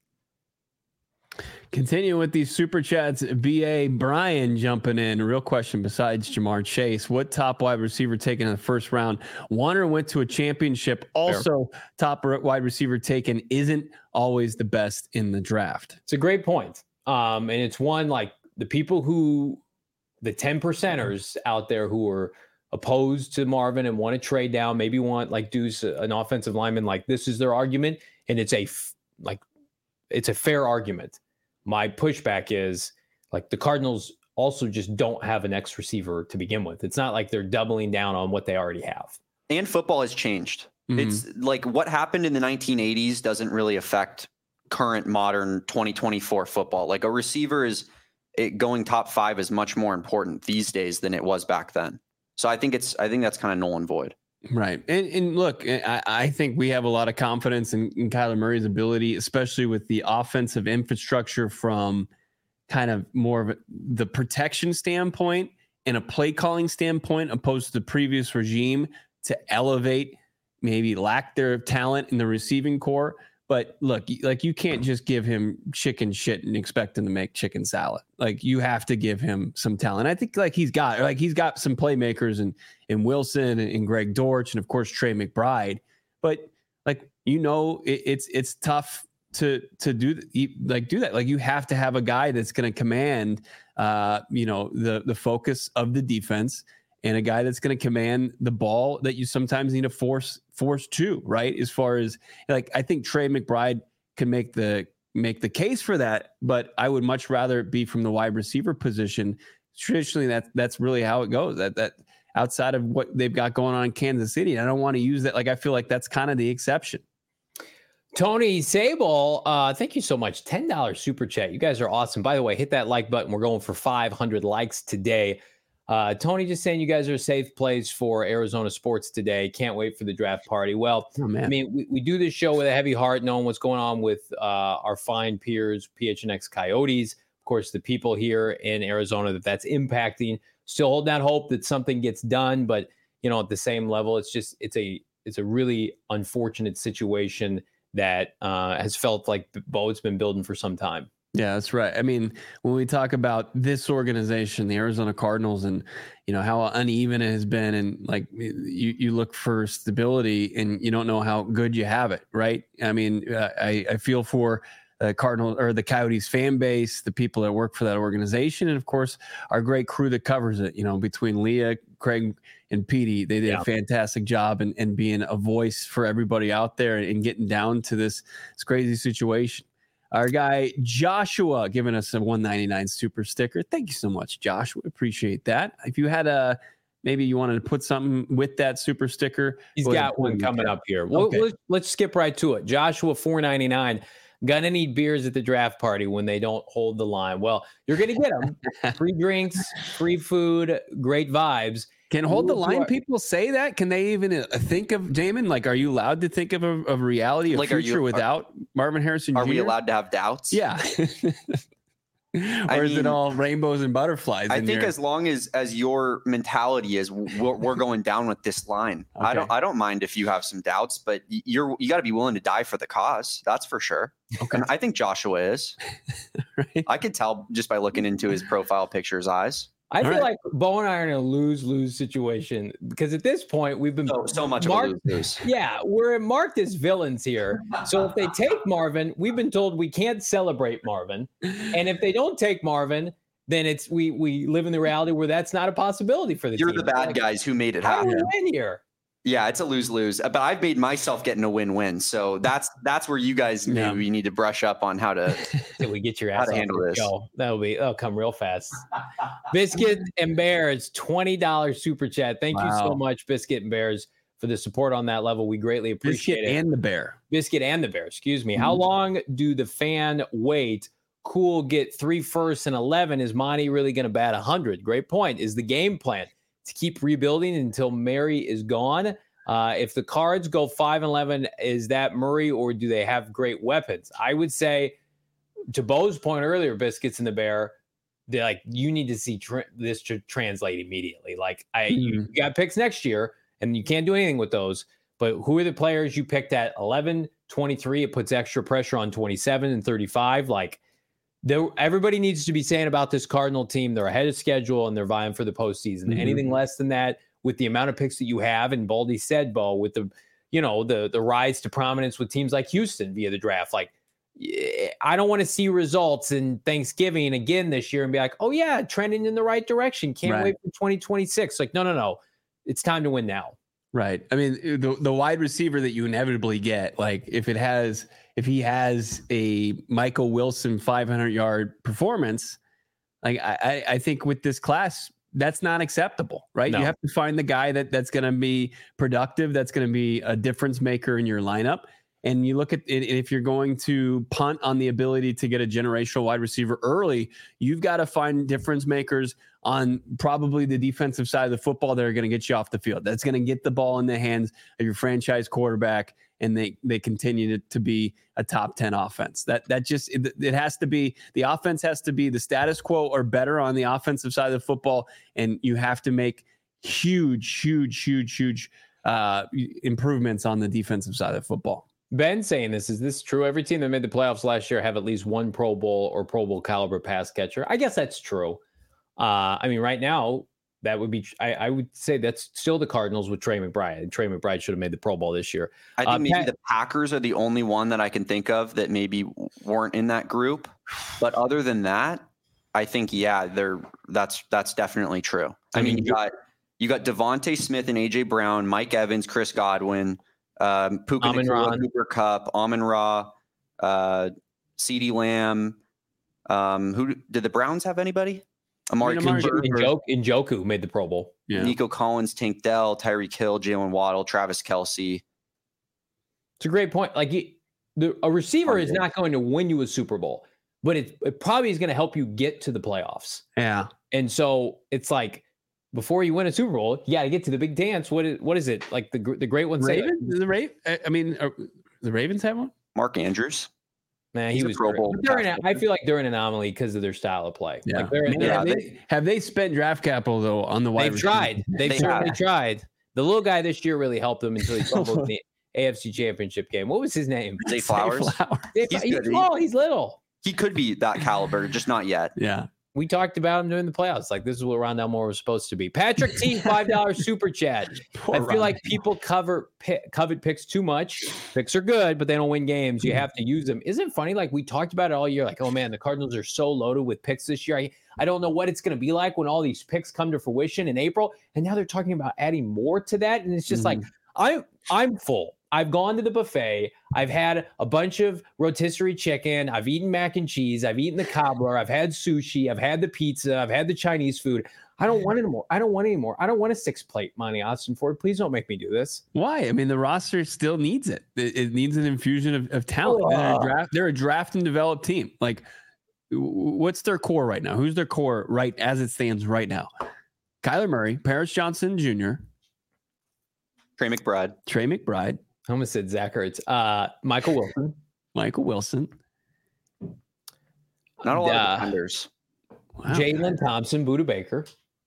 Continue with these super chats. BA Brian jumping in. Real question besides Jamar Chase. What top wide receiver taken in the first round? Warner went to a championship. Also, top wide receiver taken isn't always the best in the draft. It's a great point. And it's one like the people the 10%ers out there who are opposed to Marvin and want to trade down, maybe want like Deuce, an offensive lineman, like this is their argument. And it's a fair argument. My pushback is like the Cardinals also just don't have an X receiver to begin with. It's not like they're doubling down on what they already have. And football has changed. Mm-hmm. It's like what happened in the 1980s doesn't really affect current modern 2024 football. Like a receiver going top 5 is much more important these days than it was back then. So I think that's kind of null and void. Right. And look, I think we have a lot of confidence in Kyler Murray's ability, especially with the offensive infrastructure from kind of more of the protection standpoint and a play calling standpoint, opposed to the previous regime, to elevate maybe lack their talent in the receiving core. But look, like you can't just give him chicken shit and expect him to make chicken salad. Like you have to give him some talent. I think he's got some playmakers in Wilson and Greg Dortch and of course Trey McBride. But it's tough to do that. Like you have to have a guy that's going to command the focus of the defense and a guy that's going to command the ball that you sometimes need to force to, right? As far as like, I think Trey McBride can make the case for that, but I would much rather it be from the wide receiver position. Traditionally, that's really how it goes. That outside of what they've got going on in Kansas City, I don't want to use that. Like, I feel like that's kind of the exception. Tony Sable, thank you so much. $10 super chat. You guys are awesome. By the way, hit that like button. We're going for 500 likes today. Tony just saying you guys are a safe place for Arizona sports today. Can't wait for the draft party. Well, I mean, we do this show with a heavy heart, knowing what's going on with our fine peers, PHNX Coyotes. Of course, the people here in Arizona that's impacting. Still holding out hope that something gets done, but at the same level, it's a really unfortunate situation that has felt like Bo's been building for some time. Yeah, that's right. I mean, when we talk about this organization, the Arizona Cardinals, and how uneven it has been, and like you look for stability and you don't know how good you have it, right? I mean, I feel for the Cardinals or the Coyotes fan base, the people that work for that organization, and of course our great crew that covers it. Between Leah, Craig, and Petey, they did a fantastic job in being a voice for everybody out there and getting down to this crazy situation. Our guy Joshua giving us a $1.99 super sticker. Thank you so much, Joshua. Appreciate that. If you had maybe you wanted to put something with that super sticker, he's got one coming up here. Well, okay. Let's skip right to it. Joshua, $4.99. Gonna need beers at the draft party when they don't hold the line. Well, you're gonna get them. Free drinks, free food, great vibes. Can hold the line people say that? Can they even think of, Damon? Like, are you allowed to think of a reality, a future without Marvin Harrison Jr.? Are we allowed to have doubts? Yeah. Or is it all rainbows and butterflies? I think as long as your mentality is we're going down with this line. Okay. I don't mind if you have some doubts, but you got to be willing to die for the cause. That's for sure. Okay. And I think Joshua is. Right. I could tell just by looking into his profile picture's eyes. I feel like Bo and I are in a lose-lose situation because at this point we've been so much of a lose-lose. Yeah, we're marked as villains here. So if they take Marvin, we've been told we can't celebrate Marvin, and if they don't take Marvin, then it's we live in the reality where that's not a possibility for the team. You're the bad guys who made it happen. How do we win here? Yeah, it's a lose-lose. But I've made myself getting a win-win. So that's where you guys maybe need to brush up on how to we get your ass how to handle this. That'll come real fast. Biscuit and Bears, $20 super chat. Thank you so much, Biscuit and Bears, for the support on that level. We greatly appreciate it. And the Bear. Biscuit and the Bear, excuse me. How long do the fan wait? Cool, get 3 firsts and 11. Is Monty really going to bat 100? Great point. Is the game plan to keep rebuilding until Murray is gone? If the Cards go 5-11, is that Murray, or do they have great weapons? I would say, to Bo's point earlier, Biscuits and the Bear, they're like, you need to see this to translate immediately. Like, you got picks next year, and you can't do anything with those. But who are the players you picked at 11, 23? It puts extra pressure on 27 and 35. Like, everybody needs to be saying about this Cardinal team, they're ahead of schedule and they're vying for the postseason. Anything less than that, with the amount of picks that you have, and Baldy said, Bo, with the rise to prominence with teams like Houston via the draft, like, I don't want to see results in Thanksgiving again this year and be like, oh yeah, trending in the right direction. Can't wait for 2026. Like, no. It's time to win now. Right. I mean, the wide receiver that you inevitably get, like if he has a Michael Wilson 500-yard performance, like I think with this class, that's not acceptable, right? No. You have to find the guy that's going to be productive, that's going to be a difference maker in your lineup. And you look at it, if you're going to punt on the ability to get a generational wide receiver early, you've got to find difference makers on probably the defensive side of the football that are going to get you off the field. That's going to get the ball in the hands of your franchise quarterback, and they continue to be a top 10 offense. That just, it has to be, the offense has to be the status quo or better on the offensive side of the football, and you have to make huge improvements on the defensive side of the football. Ben saying this, is this true? Every team that made the playoffs last year have at least one Pro Bowl or Pro Bowl caliber pass catcher. I guess that's true. I mean, right now, that would be, I would say that's still the Cardinals with Trey McBride. Trey McBride should have made the Pro Bowl this year. I think maybe the Packers are the only one that I can think of that maybe weren't in that group. But other than that, I think, that's definitely true. I mean, You got Devontae Smith and A.J. Brown, Mike Evans, Chris Godwin, Puka Nacua, Cooper Kupp, Amon-Ra, CeeDee Lamb. Who did the Browns have anybody? Amari Njoku made the Pro Bowl. Yeah. Nico Collins, Tank Dell, Tyreek Hill, Jalen Waddle, Travis Kelce. It's a great point. Like a receiver is not going to win you a Super Bowl, but it probably is going to help you get to the playoffs. Yeah. And so it's like, before you win a Super Bowl, you got to get to the big dance. What is it? Like the great one? Ravens? The Ravens have one? Mark Andrews. Man, he was Pro Bowl. I feel like they're an anomaly because of their style of play. Yeah. Have they spent draft capital though on the wide receiver? Tried. They've certainly tried. The little guy this year really helped them until he fumbled in the AFC Championship game. What was his name? Zay Flowers. He's little. He could be that caliber, just not yet. Yeah. We talked about him during the playoffs. Like, this is what Rondale Moore was supposed to be. Patrick T, $5 super chat. I feel like people covet picks too much. Picks are good, but they don't win games. You have to use them. Isn't it funny? Like, we talked about it all year. Like, oh, man, the Cardinals are so loaded with picks this year. I don't know what it's going to be like when all these picks come to fruition in April. And now they're talking about adding more to that. And it's just like, I'm full. I've gone to the buffet. I've had a bunch of rotisserie chicken. I've eaten mac and cheese. I've eaten the cobbler. I've had sushi. I've had the pizza. I've had the Chinese food. I don't want anymore. I don't want a 6-plate Monty Austin Ford. Please don't make me do this. Why? I mean, the roster still needs it. It needs an infusion of talent. They're a draft and develop team. Like, what's their core right now? Who's their core right as it stands right now? Kyler Murray, Paris Johnson Jr., Trey McBride. I almost said Zach Ertz. Michael Wilson. Not a lot of defenders. Wow. Jalen Thompson, Budda Baker.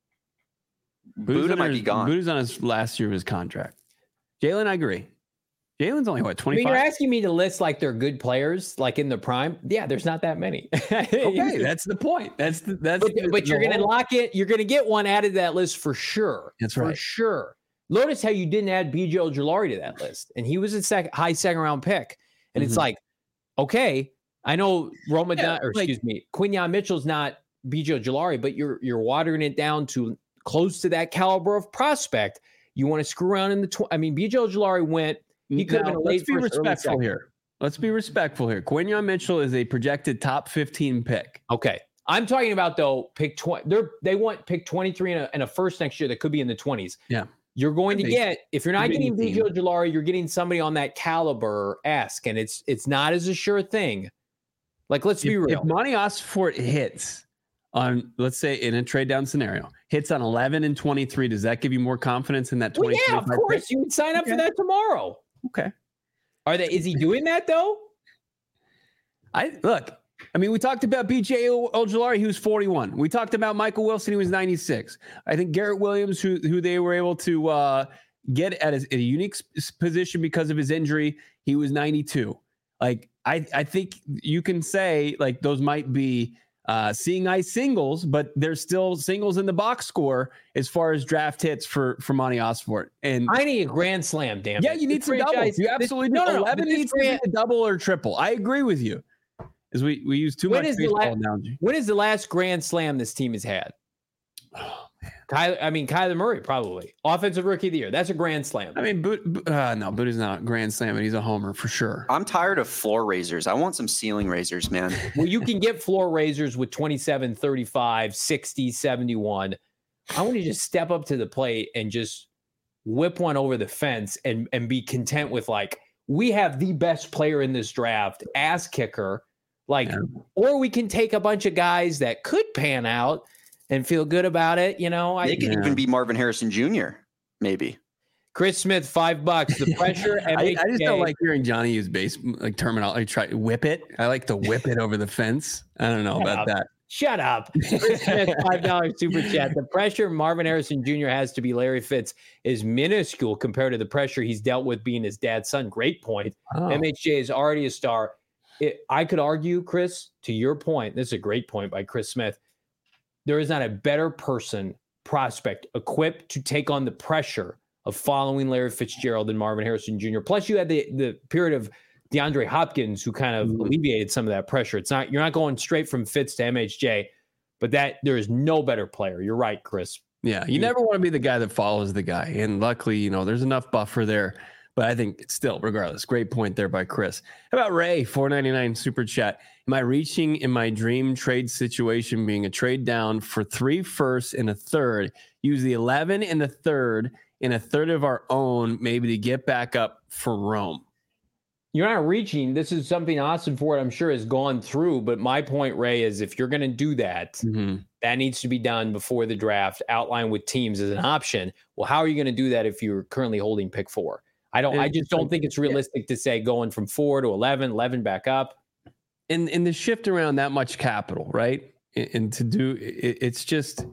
Budda might be gone. Budda's on his last year of his contract. Jalen, I agree. Jalen's only 25? I mean, you're asking me to list like they're good players, like in the prime. Yeah, there's not that many. Okay, that's the point. But you're going to lock it. You're going to get one added to that list for sure. That's right. For sure. Notice how you didn't add B.J. Ojulari to that list, and he was a high second round pick. And it's like, okay, I know Quinyon Mitchell's not B.J. Ojulari, but you're watering it down to close to that caliber of prospect. You want to screw around in the B.J. Ojulari went. He could have been a late first. Let's be respectful here. Quinyon Mitchell is a projected top 15 pick. Okay. I'm talking about though pick 20. They want pick 23 and a first next year that could be in the 20s. Yeah. You're going to get, if you're not getting B.J. Ojulari, you're getting somebody on that caliber-esque, and it's not as a sure thing. Like, let's be real. If Monty Osfort hits on, let's say in a trade down scenario, hits on 11 and 23, does that give you more confidence in that 20? Well, yeah, of course. Pick? You would sign up for that tomorrow. Okay. Is he doing that though? We talked about B.J. Ojulari, he was 41. We talked about Michael Wilson, he was 96. I think Garrett Williams, who they were able to get at a unique position because of his injury, he was 92. Like, I think you can say, like, those might be seeing eye singles, but there's still singles in the box score as far as draft hits for Monty Osfort. And I need a grand slam, damn it. Yeah, you need some doubles. You absolutely do. 11 needs to be a double or triple. I agree with you. As we use too much baseball analogy. When is the last grand slam this team has had? Oh, man. Kyler Murray, probably. Offensive Rookie of the Year. That's a grand slam. No, Budda's not a grand slam, but he's a homer for sure. I'm tired of floor raisers. I want some ceiling raisers, man. Well, you can get floor raisers with 27, 35, 60, 71. I want you to just step up to the plate and just whip one over the fence and be content with, like, we have the best player in this draft, ass kicker. Or we can take a bunch of guys that could pan out and feel good about it. They could even be Marvin Harrison Jr. Maybe. Chris Smith, $5. The pressure. I just don't like hearing Johnny use terminology. Try to whip it. I like to whip it over the fence. I don't know about that. Shut up. Chris Smith, $5 super chat. The pressure Marvin Harrison Jr. has to be Larry Fitz is minuscule compared to the pressure he's dealt with being his dad's son. Great point. MHJ is already a star. I could argue, Chris, to your point, this is a great point by Chris Smith. There is not a better prospect equipped to take on the pressure of following Larry Fitzgerald than Marvin Harrison Jr. Plus, you had the period of DeAndre Hopkins, who kind of alleviated some of that pressure. You're not going straight from Fitz to MHJ, but there is no better player. You're right, Chris. Yeah, you never want to be the guy that follows the guy. And luckily, there's enough buffer there. But I think still, regardless, great point there by Chris. How about Ray, $4.99 super chat? Am I reaching in my dream trade situation being a trade down for 3 firsts and a third? Use the 11 and the third and a third of our own, maybe to get back up for Rome. You're not reaching. This is something Austin Ford, I'm sure, has gone through. But my point, Ray, is if you're going to do that, that needs to be done before the draft, outlined with teams as an option. Well, how are you going to do that if you're currently holding pick 4? I just don't think it's realistic to say going from 4 to 11 back up. And the shift around that much capital, right? And to do it's just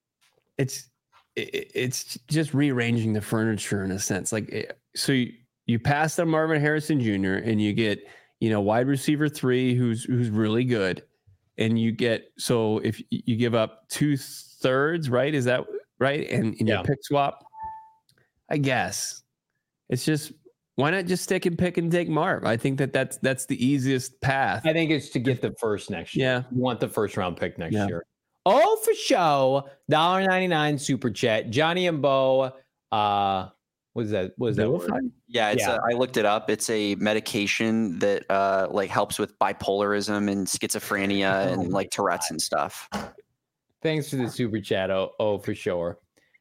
rearranging the furniture in a sense. Like, so you pass on Marvin Harrison Jr. and you get, wide receiver 3 who's really good. And you get, so if you give up 2/3, right? Is that right? And in your pick swap, I guess. It's just, why not just stick and pick and take Marv? I think that's the easiest path. I think it's to get the first next year. Yeah. You want the first round pick next year. Oh, for show. $1.99 super chat. Johnny and Bo. What is that? What is that word? Yeah, I looked it up. It's a medication that helps with bipolarism and schizophrenia and like Tourette's and stuff. Thanks for the super chat. Oh, for sure.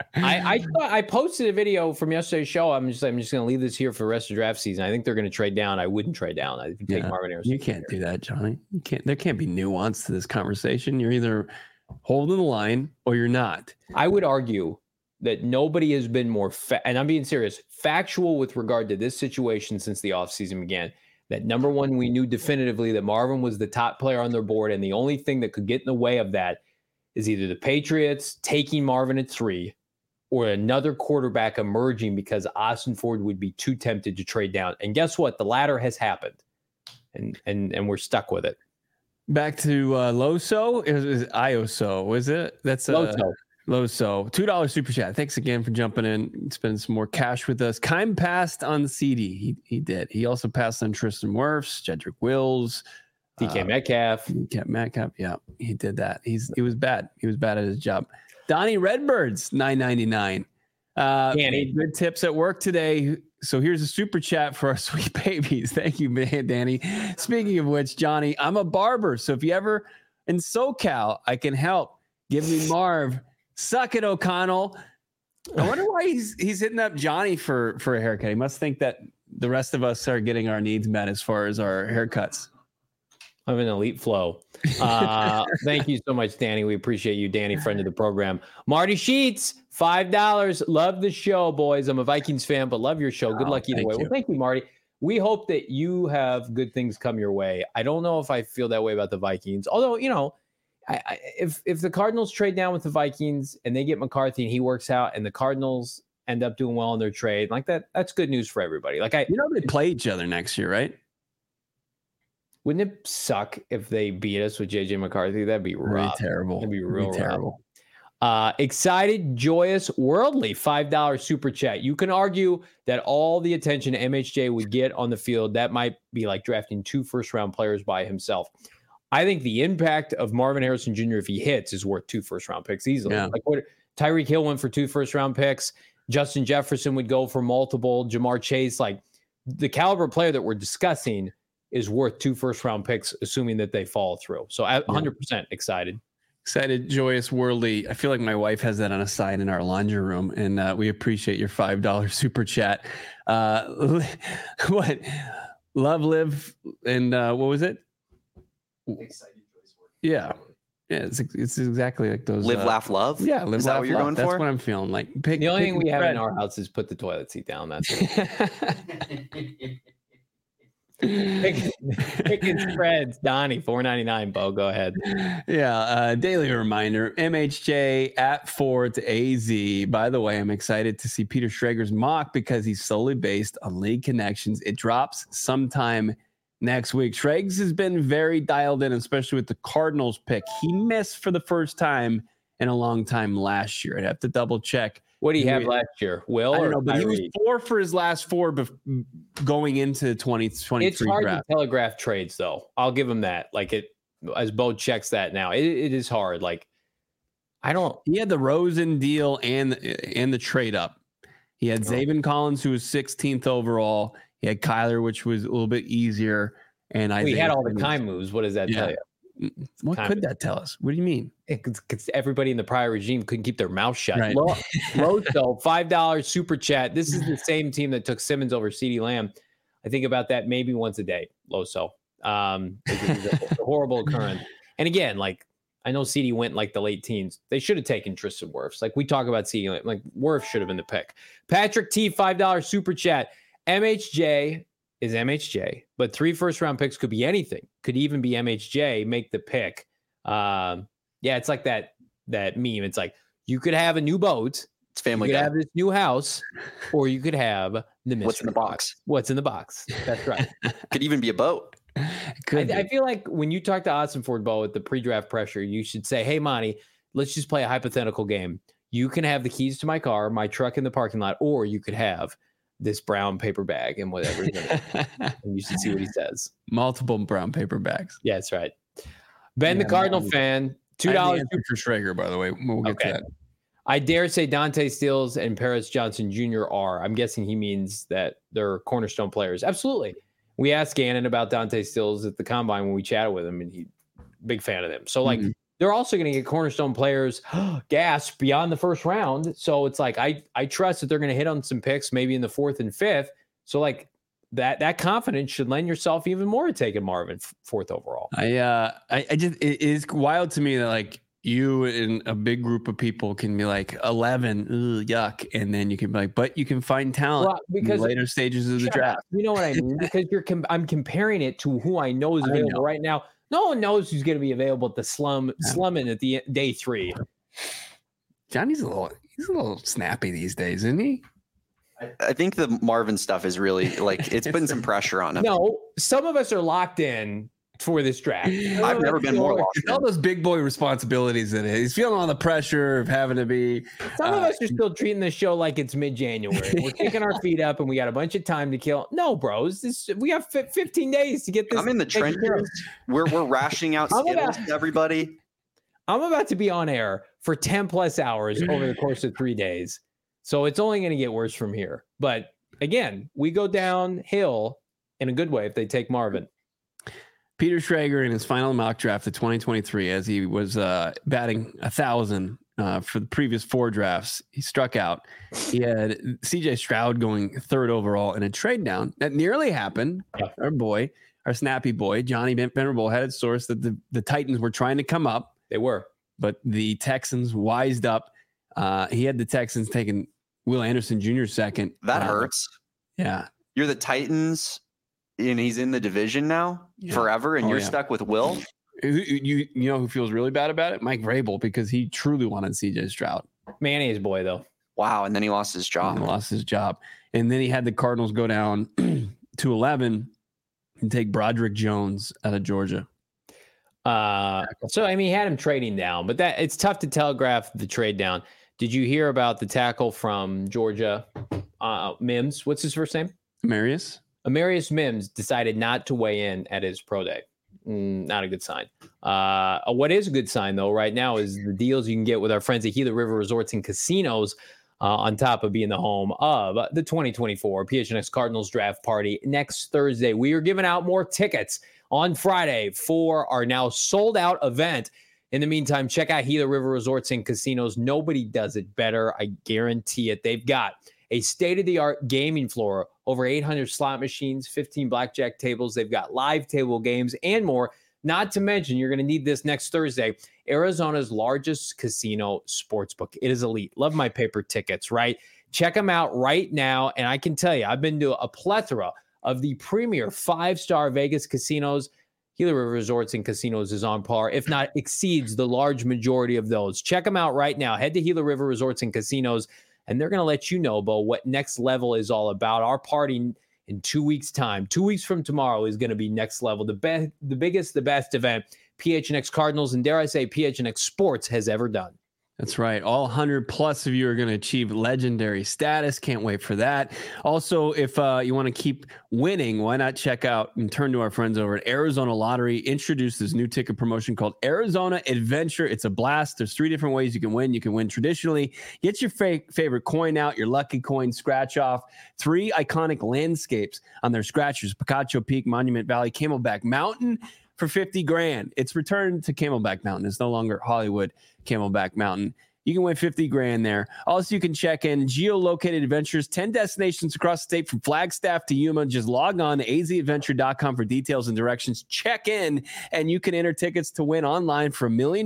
I posted a video from yesterday's show. I'm just going to leave this here for the rest of the draft season. I think they're going to trade down. I wouldn't trade down. I would take Marvin Harrison. You can't do that, Johnny. You can't. There can't be nuance to this conversation. You're either holding the line or you're not. I would argue that nobody has been more, and I'm being serious, factual with regard to this situation since the offseason began. That number one, we knew definitively that Marvin was the top player on their board, and the only thing that could get in the way of that is either the Patriots taking Marvin at 3 or another quarterback emerging because Austin Ford would be too tempted to trade down. And guess what? The latter has happened, and we're stuck with it. Back to Loso. It was IOSO, was it? That's Loso. $2 super chat. Thanks again for jumping in, spending some more cash with us. Keim passed on CD. He did. He also passed on Tristan Wirfs, Jedrick Wills, DK Metcalf. Yeah, he did that. He was bad. He was bad at his job. Donnie Redbirds, $9.99. Danny, good tips at work today. So here's a super chat for our sweet babies. Thank you, man, Danny. Speaking of which, Johnny, I'm a barber. So if you ever in SoCal, I can help. Give me Marv. Suck it, O'Connell. I wonder why he's hitting up Johnny for a haircut. He must think that the rest of us are getting our needs met as far as our haircuts. I have an elite flow. Thank you so much, Danny. We appreciate you, Danny, friend of the program. Marty Sheets, $5. Love the show, boys. I'm a Vikings fan, but love your show. Good luck either way. Well, thank you, Marty. We hope that you have good things come your way. I don't know if I feel that way about the Vikings. Although, if the Cardinals trade down with the Vikings and they get McCarthy and he works out and the Cardinals end up doing well in their trade, like that's good news for everybody. They play each other next year, right? Wouldn't it suck if they beat us with JJ McCarthy? That'd be rough. Terrible. That'd be real terrible. Excited, joyous, worldly, $5 super chat. You can argue that all the attention MHJ would get on the field, that might be like drafting 2 first-round players by himself. I think the impact of Marvin Harrison Jr., if he hits, is worth 2 first-round picks easily. Yeah. Tyreek Hill went for 2 first-round picks. Justin Jefferson would go for multiple. Jamar Chase, the caliber player that we're discussing is worth 2 first-round picks, assuming that they follow through. So 100% excited. Excited, joyous, worldly. I feel like my wife has that on a sign in our laundry room, and we appreciate your $5 super chat. What? Love, live, and what was it? Excited, joyous, worldly. Yeah. Yeah, it's exactly like those. Live, laugh, love? Yeah, live, is that laugh, what you're love. going That's for? what I'm feeling like. The only thing we have in our house is put the toilet seat down. That's it. Picking spreads, Donnie, $4.99. Bo, go ahead. Yeah, daily reminder: MHJ at Ford to AZ. By the way, I'm excited to see Peter Schrager's mock because he's solely based on league connections. It drops sometime next week. Schrags has been very dialed in, especially with the Cardinals pick. He missed for the first time in a long time last year. I'd have to double check. What do you have last year? Will? I don't know, but he was 4 for his last 4 going into 2023. It's hard draft. to telegraph trades, though. I'll give him that. As Bo checks that now, it is hard. He had the Rosen deal and the trade up. He had Zaven Collins, who was 16th overall. He had Kyler, which was a little bit easier. And he had all the time moves. What does that tell you? What could that tell us? What do you mean? Because everybody in the prior regime couldn't keep their mouth shut. Right. Loso, $5 super chat. This is the same team that took Simmons over CeeDee Lamb. I think about that maybe once a day, Loso. It's a horrible occurrence. And again, like, I know CeeDee went like the late teens. They should have taken Tristan Wirfs. Like, we talk about CeeDee, like Wirfs should have been the pick. Patrick T, $5 super chat. MHJ is MHJ, but 3 first-round picks could be anything. Could even be MHJ, make the pick. It's like that meme. It's like, you could have a new boat. It's Family Guy. You could have this new house, or you could have the mystery What's in the box? What's in the box? That's right. Could even be a boat. I feel like when you talk to Ossenford, Bo, with the pre-draft pressure, you should say, hey, Monty, let's just play a hypothetical game. You can have the keys to my car, my truck in the parking lot, or you could have this brown paper bag and whatever. And you should see what he says. Multiple brown paper bags. Yeah, that's right. Ben, the Cardinal fan, $2 for Schrager, by the way. We'll get to that. I dare say Dante Stills and Paris Johnson Jr. are. I'm guessing he means that they're cornerstone players. Absolutely. We asked Gannon about Dante Stills at the Combine when we chatted with him, and he big fan of them. So, like, they're also going to get cornerstone players, gasp, beyond the first round. So it's like, I trust that they're going to hit on some picks, maybe in the 4th and 5th. So, like, that confidence should lend yourself even more to taking Marvin 4th overall. It is wild to me that, like, you and a big group of people can be like 11, yuck, and then you can be like, but you can find talent in the later stages of the draft. You know what I mean? Because I'm comparing it to who I know is available right now. No one knows who's going to be available at the slumming at the day 3. Johnny's a little snappy these days, isn't he? I think the Marvin stuff is really, like, it's putting some pressure on him. No, some of us are locked in for this draft. I've never been more locked in. All those big boy responsibilities that he's feeling all the pressure of having to be. Some of us are still treating the show like it's mid-January. We're kicking our feet up and we got a bunch of time to kill. No, bros, we have 15 days to get this. I'm in the trenches. We're rationing out Skittles to everybody. I'm about to be on air for 10 plus hours over the course of 3 days. So it's only going to get worse from here. But again, we go downhill in a good way if they take Marvin. Peter Schrager in his final mock draft of 2023, as he was batting 1,000 for the previous 4 drafts, he struck out. He had CJ Stroud going 3rd overall in a trade down. That nearly happened. Our snappy boy, Johnny Venerable, had it sourced that the Titans were trying to come up. They were. But the Texans wised up. He had the Texans taking Will Anderson Jr. second. That hurts. Yeah. You're the Titans, and he's in the division now forever, and you're stuck with Will. You know who feels really bad about it? Mike Vrabel, because he truly wanted CJ Stroud. Mayonnaise boy, though. Wow, and then he lost his job. And then he had the Cardinals go down to 11 and take Broderick Jones out of Georgia. So, I mean, he had him trading down, but it's tough to telegraph the trade down. Did you hear about the tackle from Georgia, Mims? What's his first name? Amarius Mims decided not to weigh in at his pro day. Not a good sign. What is a good sign, though, right now is the deals you can get with our friends at Gila River Resorts and Casinos, on top of being the home of the 2024 PHNX Cardinals Draft Party next Thursday. We are giving out more tickets on Friday for our now sold-out event. In the meantime, check out Gila River Resorts and Casinos. Nobody does it better. I guarantee it. They've got a state-of-the-art gaming floor, over 800 slot machines, 15 blackjack tables. They've got live table games and more. Not to mention, you're going to need this next Thursday, Arizona's largest casino sportsbook. It is elite. Love my paper tickets, right? Check them out right now. And I can tell you, I've been to a plethora of the premier 5-star Vegas casinos. Gila River Resorts and Casinos is on par, if not exceeds the large majority of those. Check them out right now. Head to Gila River Resorts and Casinos, and they're going to let you know, Bo, what Next Level is all about. Our party in 2 weeks' time, 2 weeks from tomorrow, is going to be Next Level, the biggest, the best event PHNX Cardinals, and dare I say PHNX Sports has ever done. That's right. All 100 plus of you are going to achieve legendary status. Can't wait for that. Also, if you want to keep winning, why not check out and turn to our friends over at Arizona Lottery. Introduced this new ticket promotion called Arizona Adventure. It's a blast. There's 3 different ways you can win. You can win traditionally. Get your favorite coin out, your lucky coin, scratch off 3 iconic landscapes on their scratchers: Picacho Peak, Monument Valley, Camelback Mountain. For $50,000. It's returned to Camelback Mountain. It's no longer Hollywood Camelback Mountain. You can win $50,000 there. Also, you can check in geolocated adventures, 10 destinations across the state from Flagstaff to Yuma. Just log on to azadventure.com for details and directions. Check in, and you can enter tickets to win online for $1 million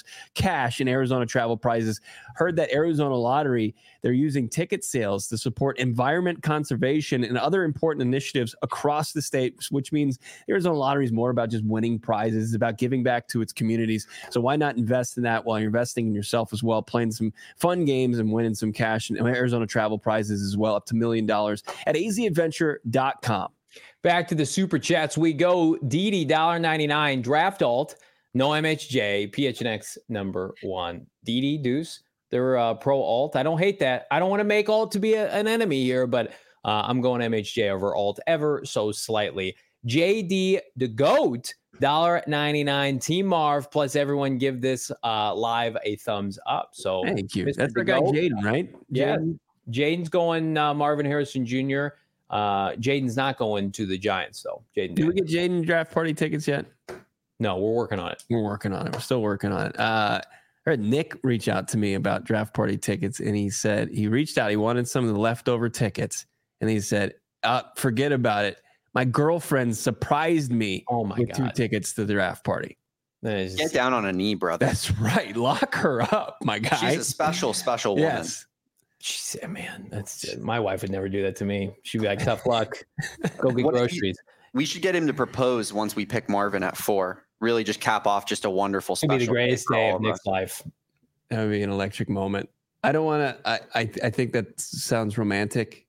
cash in Arizona travel prizes. Heard that Arizona Lottery, they're using ticket sales to support environment conservation and other important initiatives across the state, which means Arizona Lottery is more about just winning prizes. It's about giving back to its communities. So why not invest in that while you're investing in yourself as well, playing some fun games and winning some cash and Arizona travel prizes as well, up to $1 million at azadventure.com. Back to the super chats we go. Didi, $1.99, draft alt, no MHJ, PHNX number 1. Didi, Deuce, they're pro alt. I don't hate that. I don't want to make alt to be an enemy here, but I'm going MHJ over alt ever so slightly. JD the GOAT, $1.99, Team Marv, plus everyone give this live a thumbs up. So thank you. That's the guy Jaden, right? Yeah. Jaden's going Marvin Harrison Jr. Jaden's not going to the Giants, though. Did we get Jaden draft party tickets yet? No, we're working on it. We're still working on it. I heard Nick reach out to me about draft party tickets, and he said he reached out. He wanted some of the leftover tickets, and he said, forget about it. My girlfriend surprised me with 2 tickets to the draft party. Get down on a knee, brother. That's right. Lock her up, my guy. She's a special woman. Yes. She said, man, my wife would never do that to me. She'd be like, tough luck. Go get groceries. We should get him to propose once we pick Marvin at 4. Really just cap off just a wonderful special. It'd be the greatest day of Nick's life. That would be an electric moment. I don't want to, I think that sounds romantic.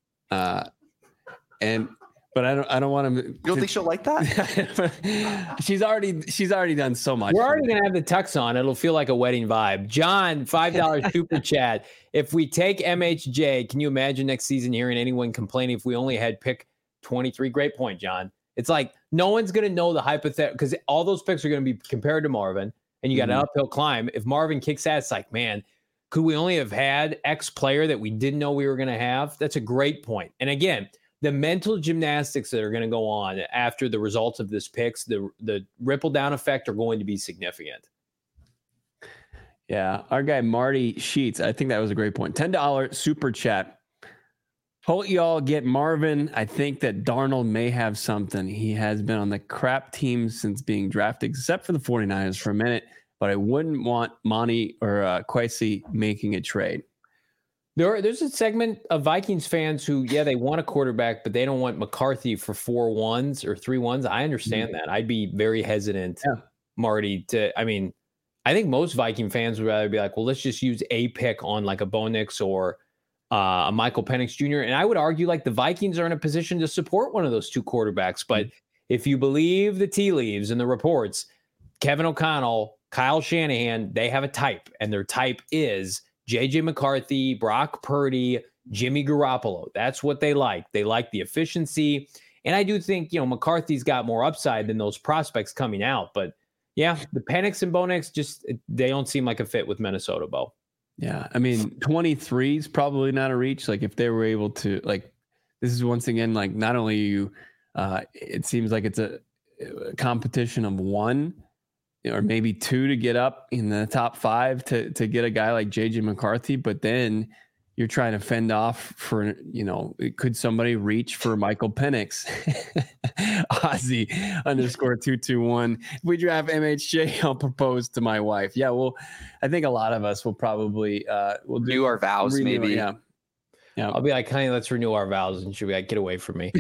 But I don't want to. You don't think she'll like that? she's already done so much. We're already gonna have the tux on. It'll feel like a wedding vibe. John, $5 super chat. If we take MHJ, can you imagine next season hearing anyone complaining if we only had pick 23? Great point, John. It's like no one's gonna know the hypothetical because all those picks are gonna be compared to Marvin, and you got an uphill climb. If Marvin kicks ass, it's like, man, could we only have had X player that we didn't know we were gonna have? That's a great point. And again, the mental gymnastics that are going to go on after the results of this picks, the ripple down effect are going to be significant. Yeah. Our guy, Marty Sheets, I think that was a great point. $10 super chat. Hope y'all get Marvin. I think that Darnold may have something. He has been on the crap team since being drafted, except for the 49ers for a minute, but I wouldn't want Monty or Kwesi making a trade. There's a segment of Vikings fans who, they want a quarterback, but they don't want McCarthy for 4 1s or 3 1s. I understand that. I'd be very hesitant, Marty, I think most Viking fans would rather be like, well, let's just use a pick on like a Bo Nix or a Michael Penix Jr. And I would argue like the Vikings are in a position to support one of those 2 quarterbacks. But if you believe the tea leaves and the reports, Kevin O'Connell, Kyle Shanahan, they have a type, and their type is J.J. McCarthy, Brock Purdy, Jimmy Garoppolo. That's what they like. They like the efficiency. And I do think, McCarthy's got more upside than those prospects coming out. But, the Penix and Bo Nix, they don't seem like a fit with Minnesota, Bo. Yeah, 23 is probably not a reach. Like, if they were able to, this is once again, not only you, it seems like it's a competition of 1 or maybe 2 to get up in the top 5 to get a guy like JJ McCarthy, but then you're trying to fend off for, could somebody reach for Michael Penix? Ozzy _221. If we draft MHJ, I'll propose to my wife. Yeah, well, I think a lot of us will probably we'll do our vows, maybe. Yeah, I'll be like, honey, let's renew our vows. And she'll be like, get away from me.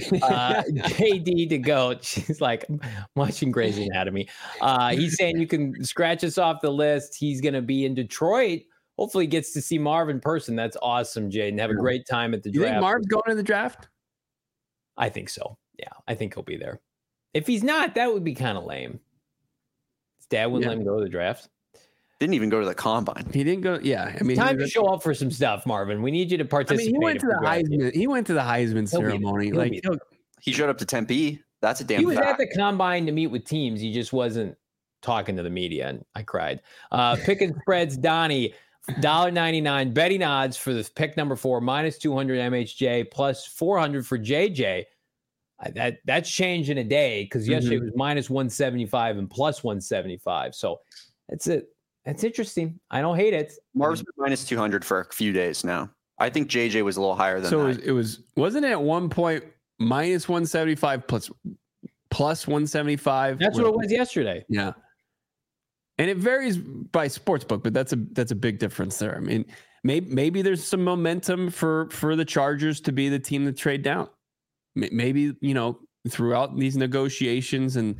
JD to GOAT. She's like, I'm watching Grey's Anatomy. He's saying you can scratch us off the list. He's going to be in Detroit. Hopefully he gets to see Marv in person. That's awesome, Jaden. Have a great time at the draft. You think Marv's going to the draft? I think so. Yeah, I think he'll be there. If he's not, that would be kind of lame. His dad wouldn't let him go to the draft. Didn't even go to the combine. He didn't go. Yeah, I mean, time to show up for some stuff, Marvin. We need you to participate. He went to the Heisman. He went to the Heisman ceremony. He showed up to Tempe. That's a damn. He was fact. at the combine to meet with teams. He just wasn't talking to the media, and I cried. Picking spreads, Donnie, $1.99 betting odds for the pick number 4 -200 MHJ plus 400 for JJ. That's changed in a day because yesterday it was -175 and plus 175. So that's it. That's interesting. I don't hate it. Marv's been -200 for a few days now. I think JJ was a little higher than that. So wasn't it at one point -175 plus 175? That's what it was yesterday. Yeah. And it varies by sportsbook, but that's a big difference there. I mean, maybe there's some momentum for the Chargers to be the team to trade down. Maybe, throughout these negotiations and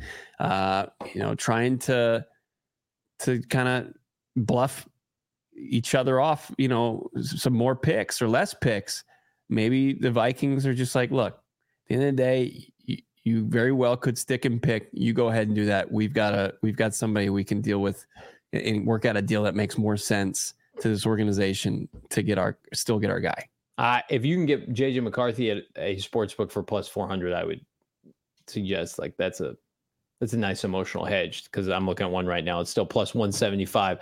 trying to kind of bluff each other off, some more picks or less picks. Maybe the Vikings are just like, look, at the end of the day, you very well could stick and pick. You go ahead and do that. We've got somebody we can deal with and work out a deal that makes more sense to this organization to still get our guy. If you can get JJ McCarthy at a sports book for plus 400, I would suggest that's a nice emotional hedge because I'm looking at one right now. It's still plus 175.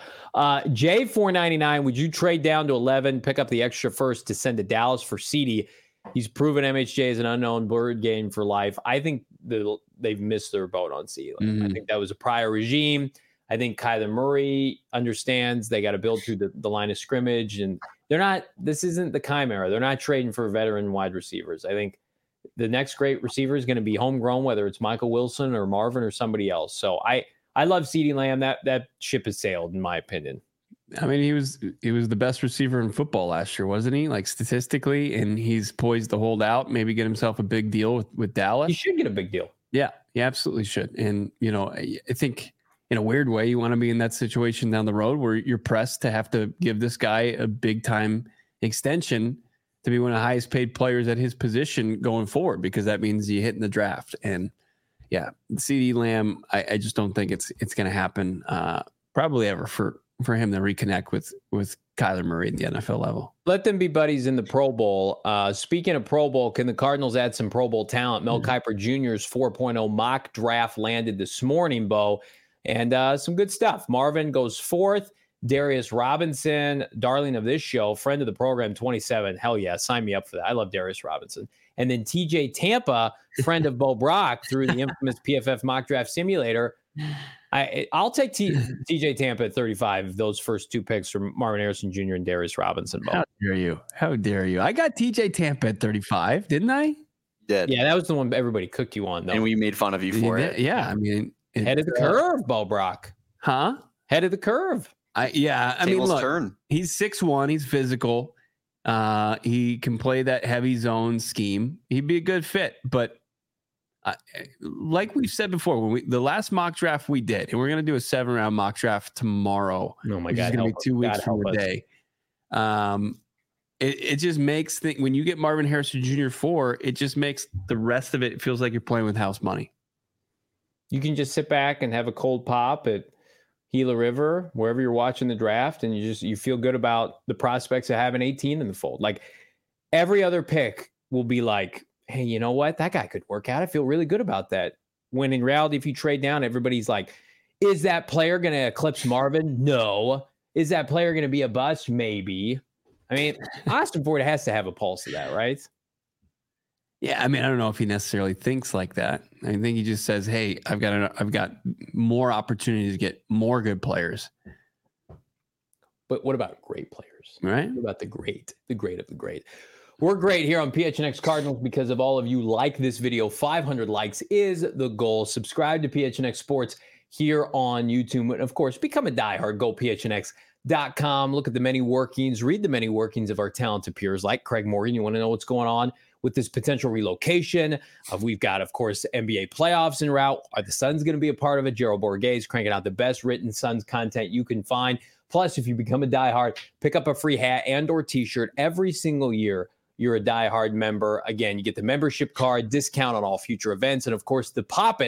J 499. Would you trade down to 11, pick up the extra first to send to Dallas for CD? He's proven MHJ is an unknown bird game for life. I think they've missed their boat on CD. I think that was a prior regime. I think Kyler Murray understands they got to build through the line of scrimmage, and this isn't the Chimera. They're not trading for veteran wide receivers. I think the next great receiver is going to be homegrown, whether it's Michael Wilson or Marvin or somebody else. So I love CeeDee Lamb. That ship has sailed, in my opinion. I mean, he was the best receiver in football last year, wasn't he? Like statistically, and he's poised to hold out, maybe get himself a big deal with Dallas. He should get a big deal. Yeah, he absolutely should. And, I think in a weird way, you want to be in that situation down the road where you're pressed to have to give this guy a big time extension to be one of the highest paid players at his position going forward, because that means you hit in the draft. And yeah, CeeDee Lamb, I just don't think it's going to happen probably ever for him to reconnect with Kyler Murray at the NFL level. Let them be buddies in the Pro Bowl. Speaking of Pro Bowl, can the Cardinals add some Pro Bowl talent? Mel Kiper Jr.'s 4.0 mock draft landed this morning, Bo, and some good stuff. Marvin goes 4th. Darius Robinson, darling of this show, friend of the program, 27. Hell yeah, sign me up for that. I love Darius Robinson. And then TJ Tampa, friend of Bo Brock through the infamous PFF mock draft simulator. I'll take TJ Tampa at 35. Those first 2 picks from Marvin Harrison Jr. and Darius Robinson. Bo. How dare you? I got TJ Tampa at 35, didn't I? You did. Yeah, that was the one everybody cooked you on, though. And we made fun of you for it. Yeah, I mean, head of the curve, Bo Brock. Huh? Head of the curve. I mean, look, he's 6'1", he's physical. He can play that heavy zone scheme. He'd be a good fit, but like we've said before, when the last mock draft we did, and we're going to do a 7-round mock draft tomorrow. Oh my God. It's going to be 2 weeks from today. It just makes when you get Marvin Harrison Jr. 4, it just makes the rest of it feels like you're playing with house money. You can just sit back and have a cold pop at Gila River, wherever you're watching the draft, and you feel good about the prospects of having 18 in the fold. Like every other pick will be like, hey, you know what? That guy could work out. I feel really good about that. When in reality, if you trade down, everybody's like, is that player going to eclipse Marvin? No. Is that player going to be a bust? Maybe. I mean, Austin Ford has to have a pulse of that, right? Yeah, I mean, I don't know if he necessarily thinks like that. I think he just says, "Hey, I've got more opportunities to get more good players." But what about great players? Right? What about the great of the great? We're great here on PHNX Cardinals because of all of you. Like this video. 500 likes is the goal. Subscribe to PHNX Sports here on YouTube. And of course, become a diehard. Go PHNX.com. Look at the many workings. Read the many workings of our talented peers like Craig Morgan. You want to know what's going on with this potential relocation? We've got, of course, NBA playoffs en route. Are the Suns going to be a part of it? Gerald Borges cranking out the best written Suns content you can find. Plus, if you become a diehard, pick up a free hat and or t-shirt every single year. You're a diehard member. Again, you get the membership card, discount on all future events, and of course, the poppin'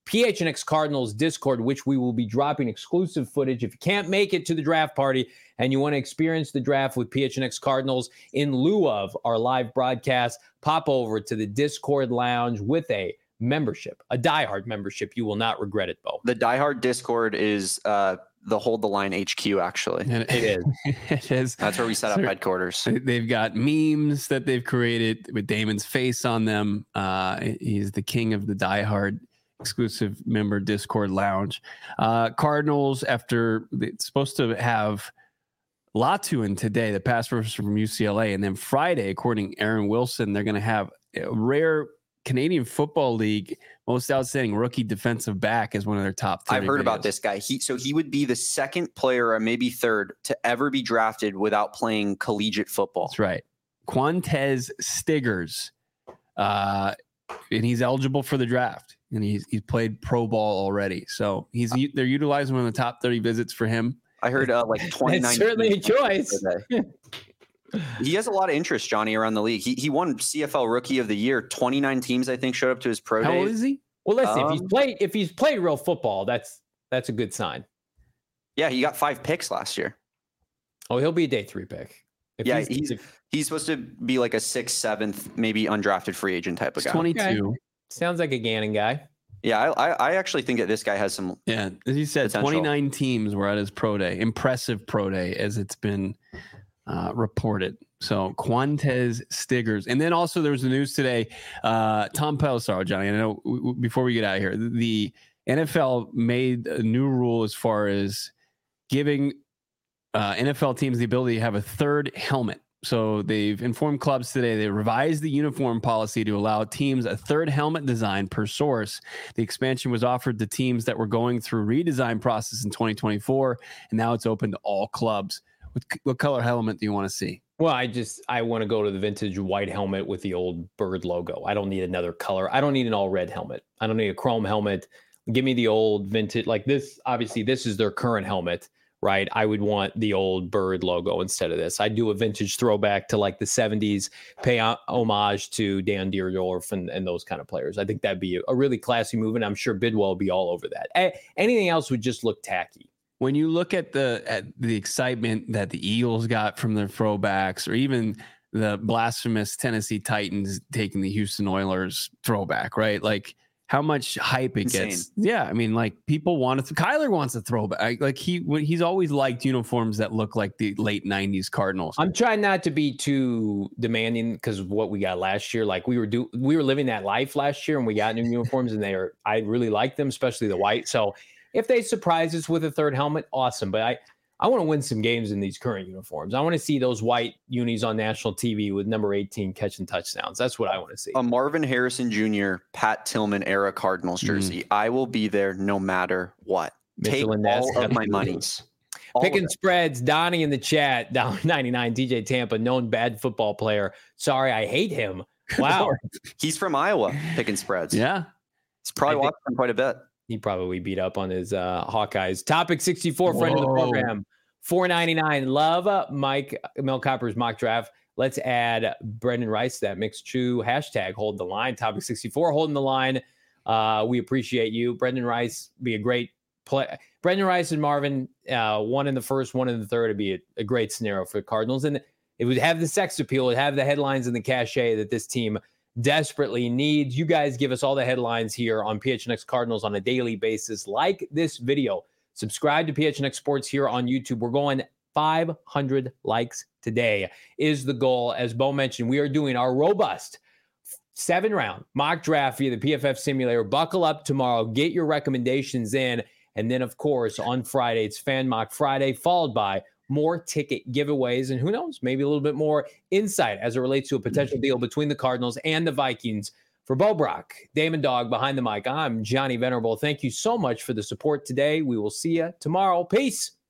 PHNX Cardinals Discord, which we will be dropping exclusive footage. If you can't make it to the draft party and you want to experience the draft with PHNX Cardinals in lieu of our live broadcast, pop over to the Discord lounge with a membership, a diehard membership. You will not regret it, Bo. The diehard Discord is the Hold the Line HQ, actually. It is. It is. That's where we set up headquarters. They've got memes that they've created with Damon's face on them. He's the king of the diehard exclusive member Discord lounge. Cardinals, after it's supposed to have Latu in today, the pass rusher from UCLA, and then Friday, according to Aaron Wilson, they're going to have a rare Canadian Football League most outstanding rookie defensive back as one of their top 30 I've heard videos. about this guy. He would be the second player, or maybe third, to ever be drafted without playing collegiate football. That's right. Quantez Stiggers. And he's eligible for the draft. And he's played pro ball already. So they're utilizing one of the top 30 visits for him. I heard like 29. That's certainly a choice. He has a lot of interest, Johnny, around the league. He won CFL Rookie of the Year. 29 teams, I think, showed up to his pro day. How old is he? Well, listen, if he's played real football, that's a good sign. Yeah, he got 5 picks last year. Oh, he'll be a day 3 pick. He's supposed to be like a 6th, 7th, maybe undrafted free agent type of guy. 22. Okay. Sounds like a Gannon guy. Yeah, I actually think that this guy has some. Yeah, as you said, potential. 29 teams were at his pro day. Impressive pro day, as it's been reported. So Quantez Stiggers. And then also there was the news today. Tom Pelissaro, Johnny, I know before we get out of here, the NFL made a new rule as far as giving NFL teams the ability to have a third helmet. So they've informed clubs today they revised the uniform policy to allow teams a third helmet design per source. The expansion was offered to teams that were going through redesign process in 2024, and now it's open to all clubs. What color helmet do you want to see? Well, I want to go to the vintage white helmet with the old bird logo. I don't need another color. I don't need an all red helmet. I don't need a chrome helmet. Give me the old vintage, like this. Obviously, this is their current helmet, right? I would want the old bird logo instead of this. I'd do a vintage throwback to like the 70s, pay homage to Dan Dierdorf and those kind of players. I think that'd be a really classy move, and I'm sure Bidwell will be all over that. Anything else would just look tacky. When you look at the excitement that the Eagles got from their throwbacks, or even the blasphemous Tennessee Titans taking the Houston Oilers throwback, right? Like how much hype it gets. Yeah, I mean, like people want to. Kyler wants a throwback. Like he's always liked uniforms that look like the late '90s Cardinals. I'm trying not to be too demanding because of what we got last year. Like we were living that life last year, and we got new uniforms, and I really like them, especially the white. So if they surprise us with a third helmet, awesome. But I want to win some games in these current uniforms. I want to see those white unis on national TV with number 18 catching touchdowns. That's what I want to see. A Marvin Harrison Jr., Pat Tillman era Cardinals jersey. I will be there no matter what. Take all of my monies. Picking spreads. Donnie in the chat. Down 99. DJ Tampa, known bad football player. Sorry, I hate him. Wow. He's from Iowa. Picking spreads. Yeah. He's probably watching them quite a bit. He probably beat up on his Hawkeyes. Topic 64, friend of the program. $4.99. Love Mike Mel Copper's mock draft. Let's add Brendan Rice to that mix too. Hashtag hold the line. Topic 64, holding the line. We appreciate you. Brendan Rice be a great play. Brendan Rice and Marvin, one in the first, one in the third, would be a great scenario for the Cardinals. And it would have the sex appeal. It would have the headlines and the cachet that this team desperately needs. You guys give us all the headlines here on PHNX Cardinals on a daily basis. Like this video. Subscribe to PHNX Sports here on YouTube. We're going 500 likes today is the goal. As Bo mentioned, we are doing our robust 7-round mock draft via the PFF simulator. Buckle up tomorrow. Get your recommendations in. And then, of course, on Friday, it's Fan Mock Friday, followed by more ticket giveaways. And who knows, maybe a little bit more insight as it relates to a potential deal between the Cardinals and the Vikings. For Bo Brock, Damon Dog behind the mic, I'm Johnny Venerable. Thank you so much for the support today. We will see you tomorrow. Peace.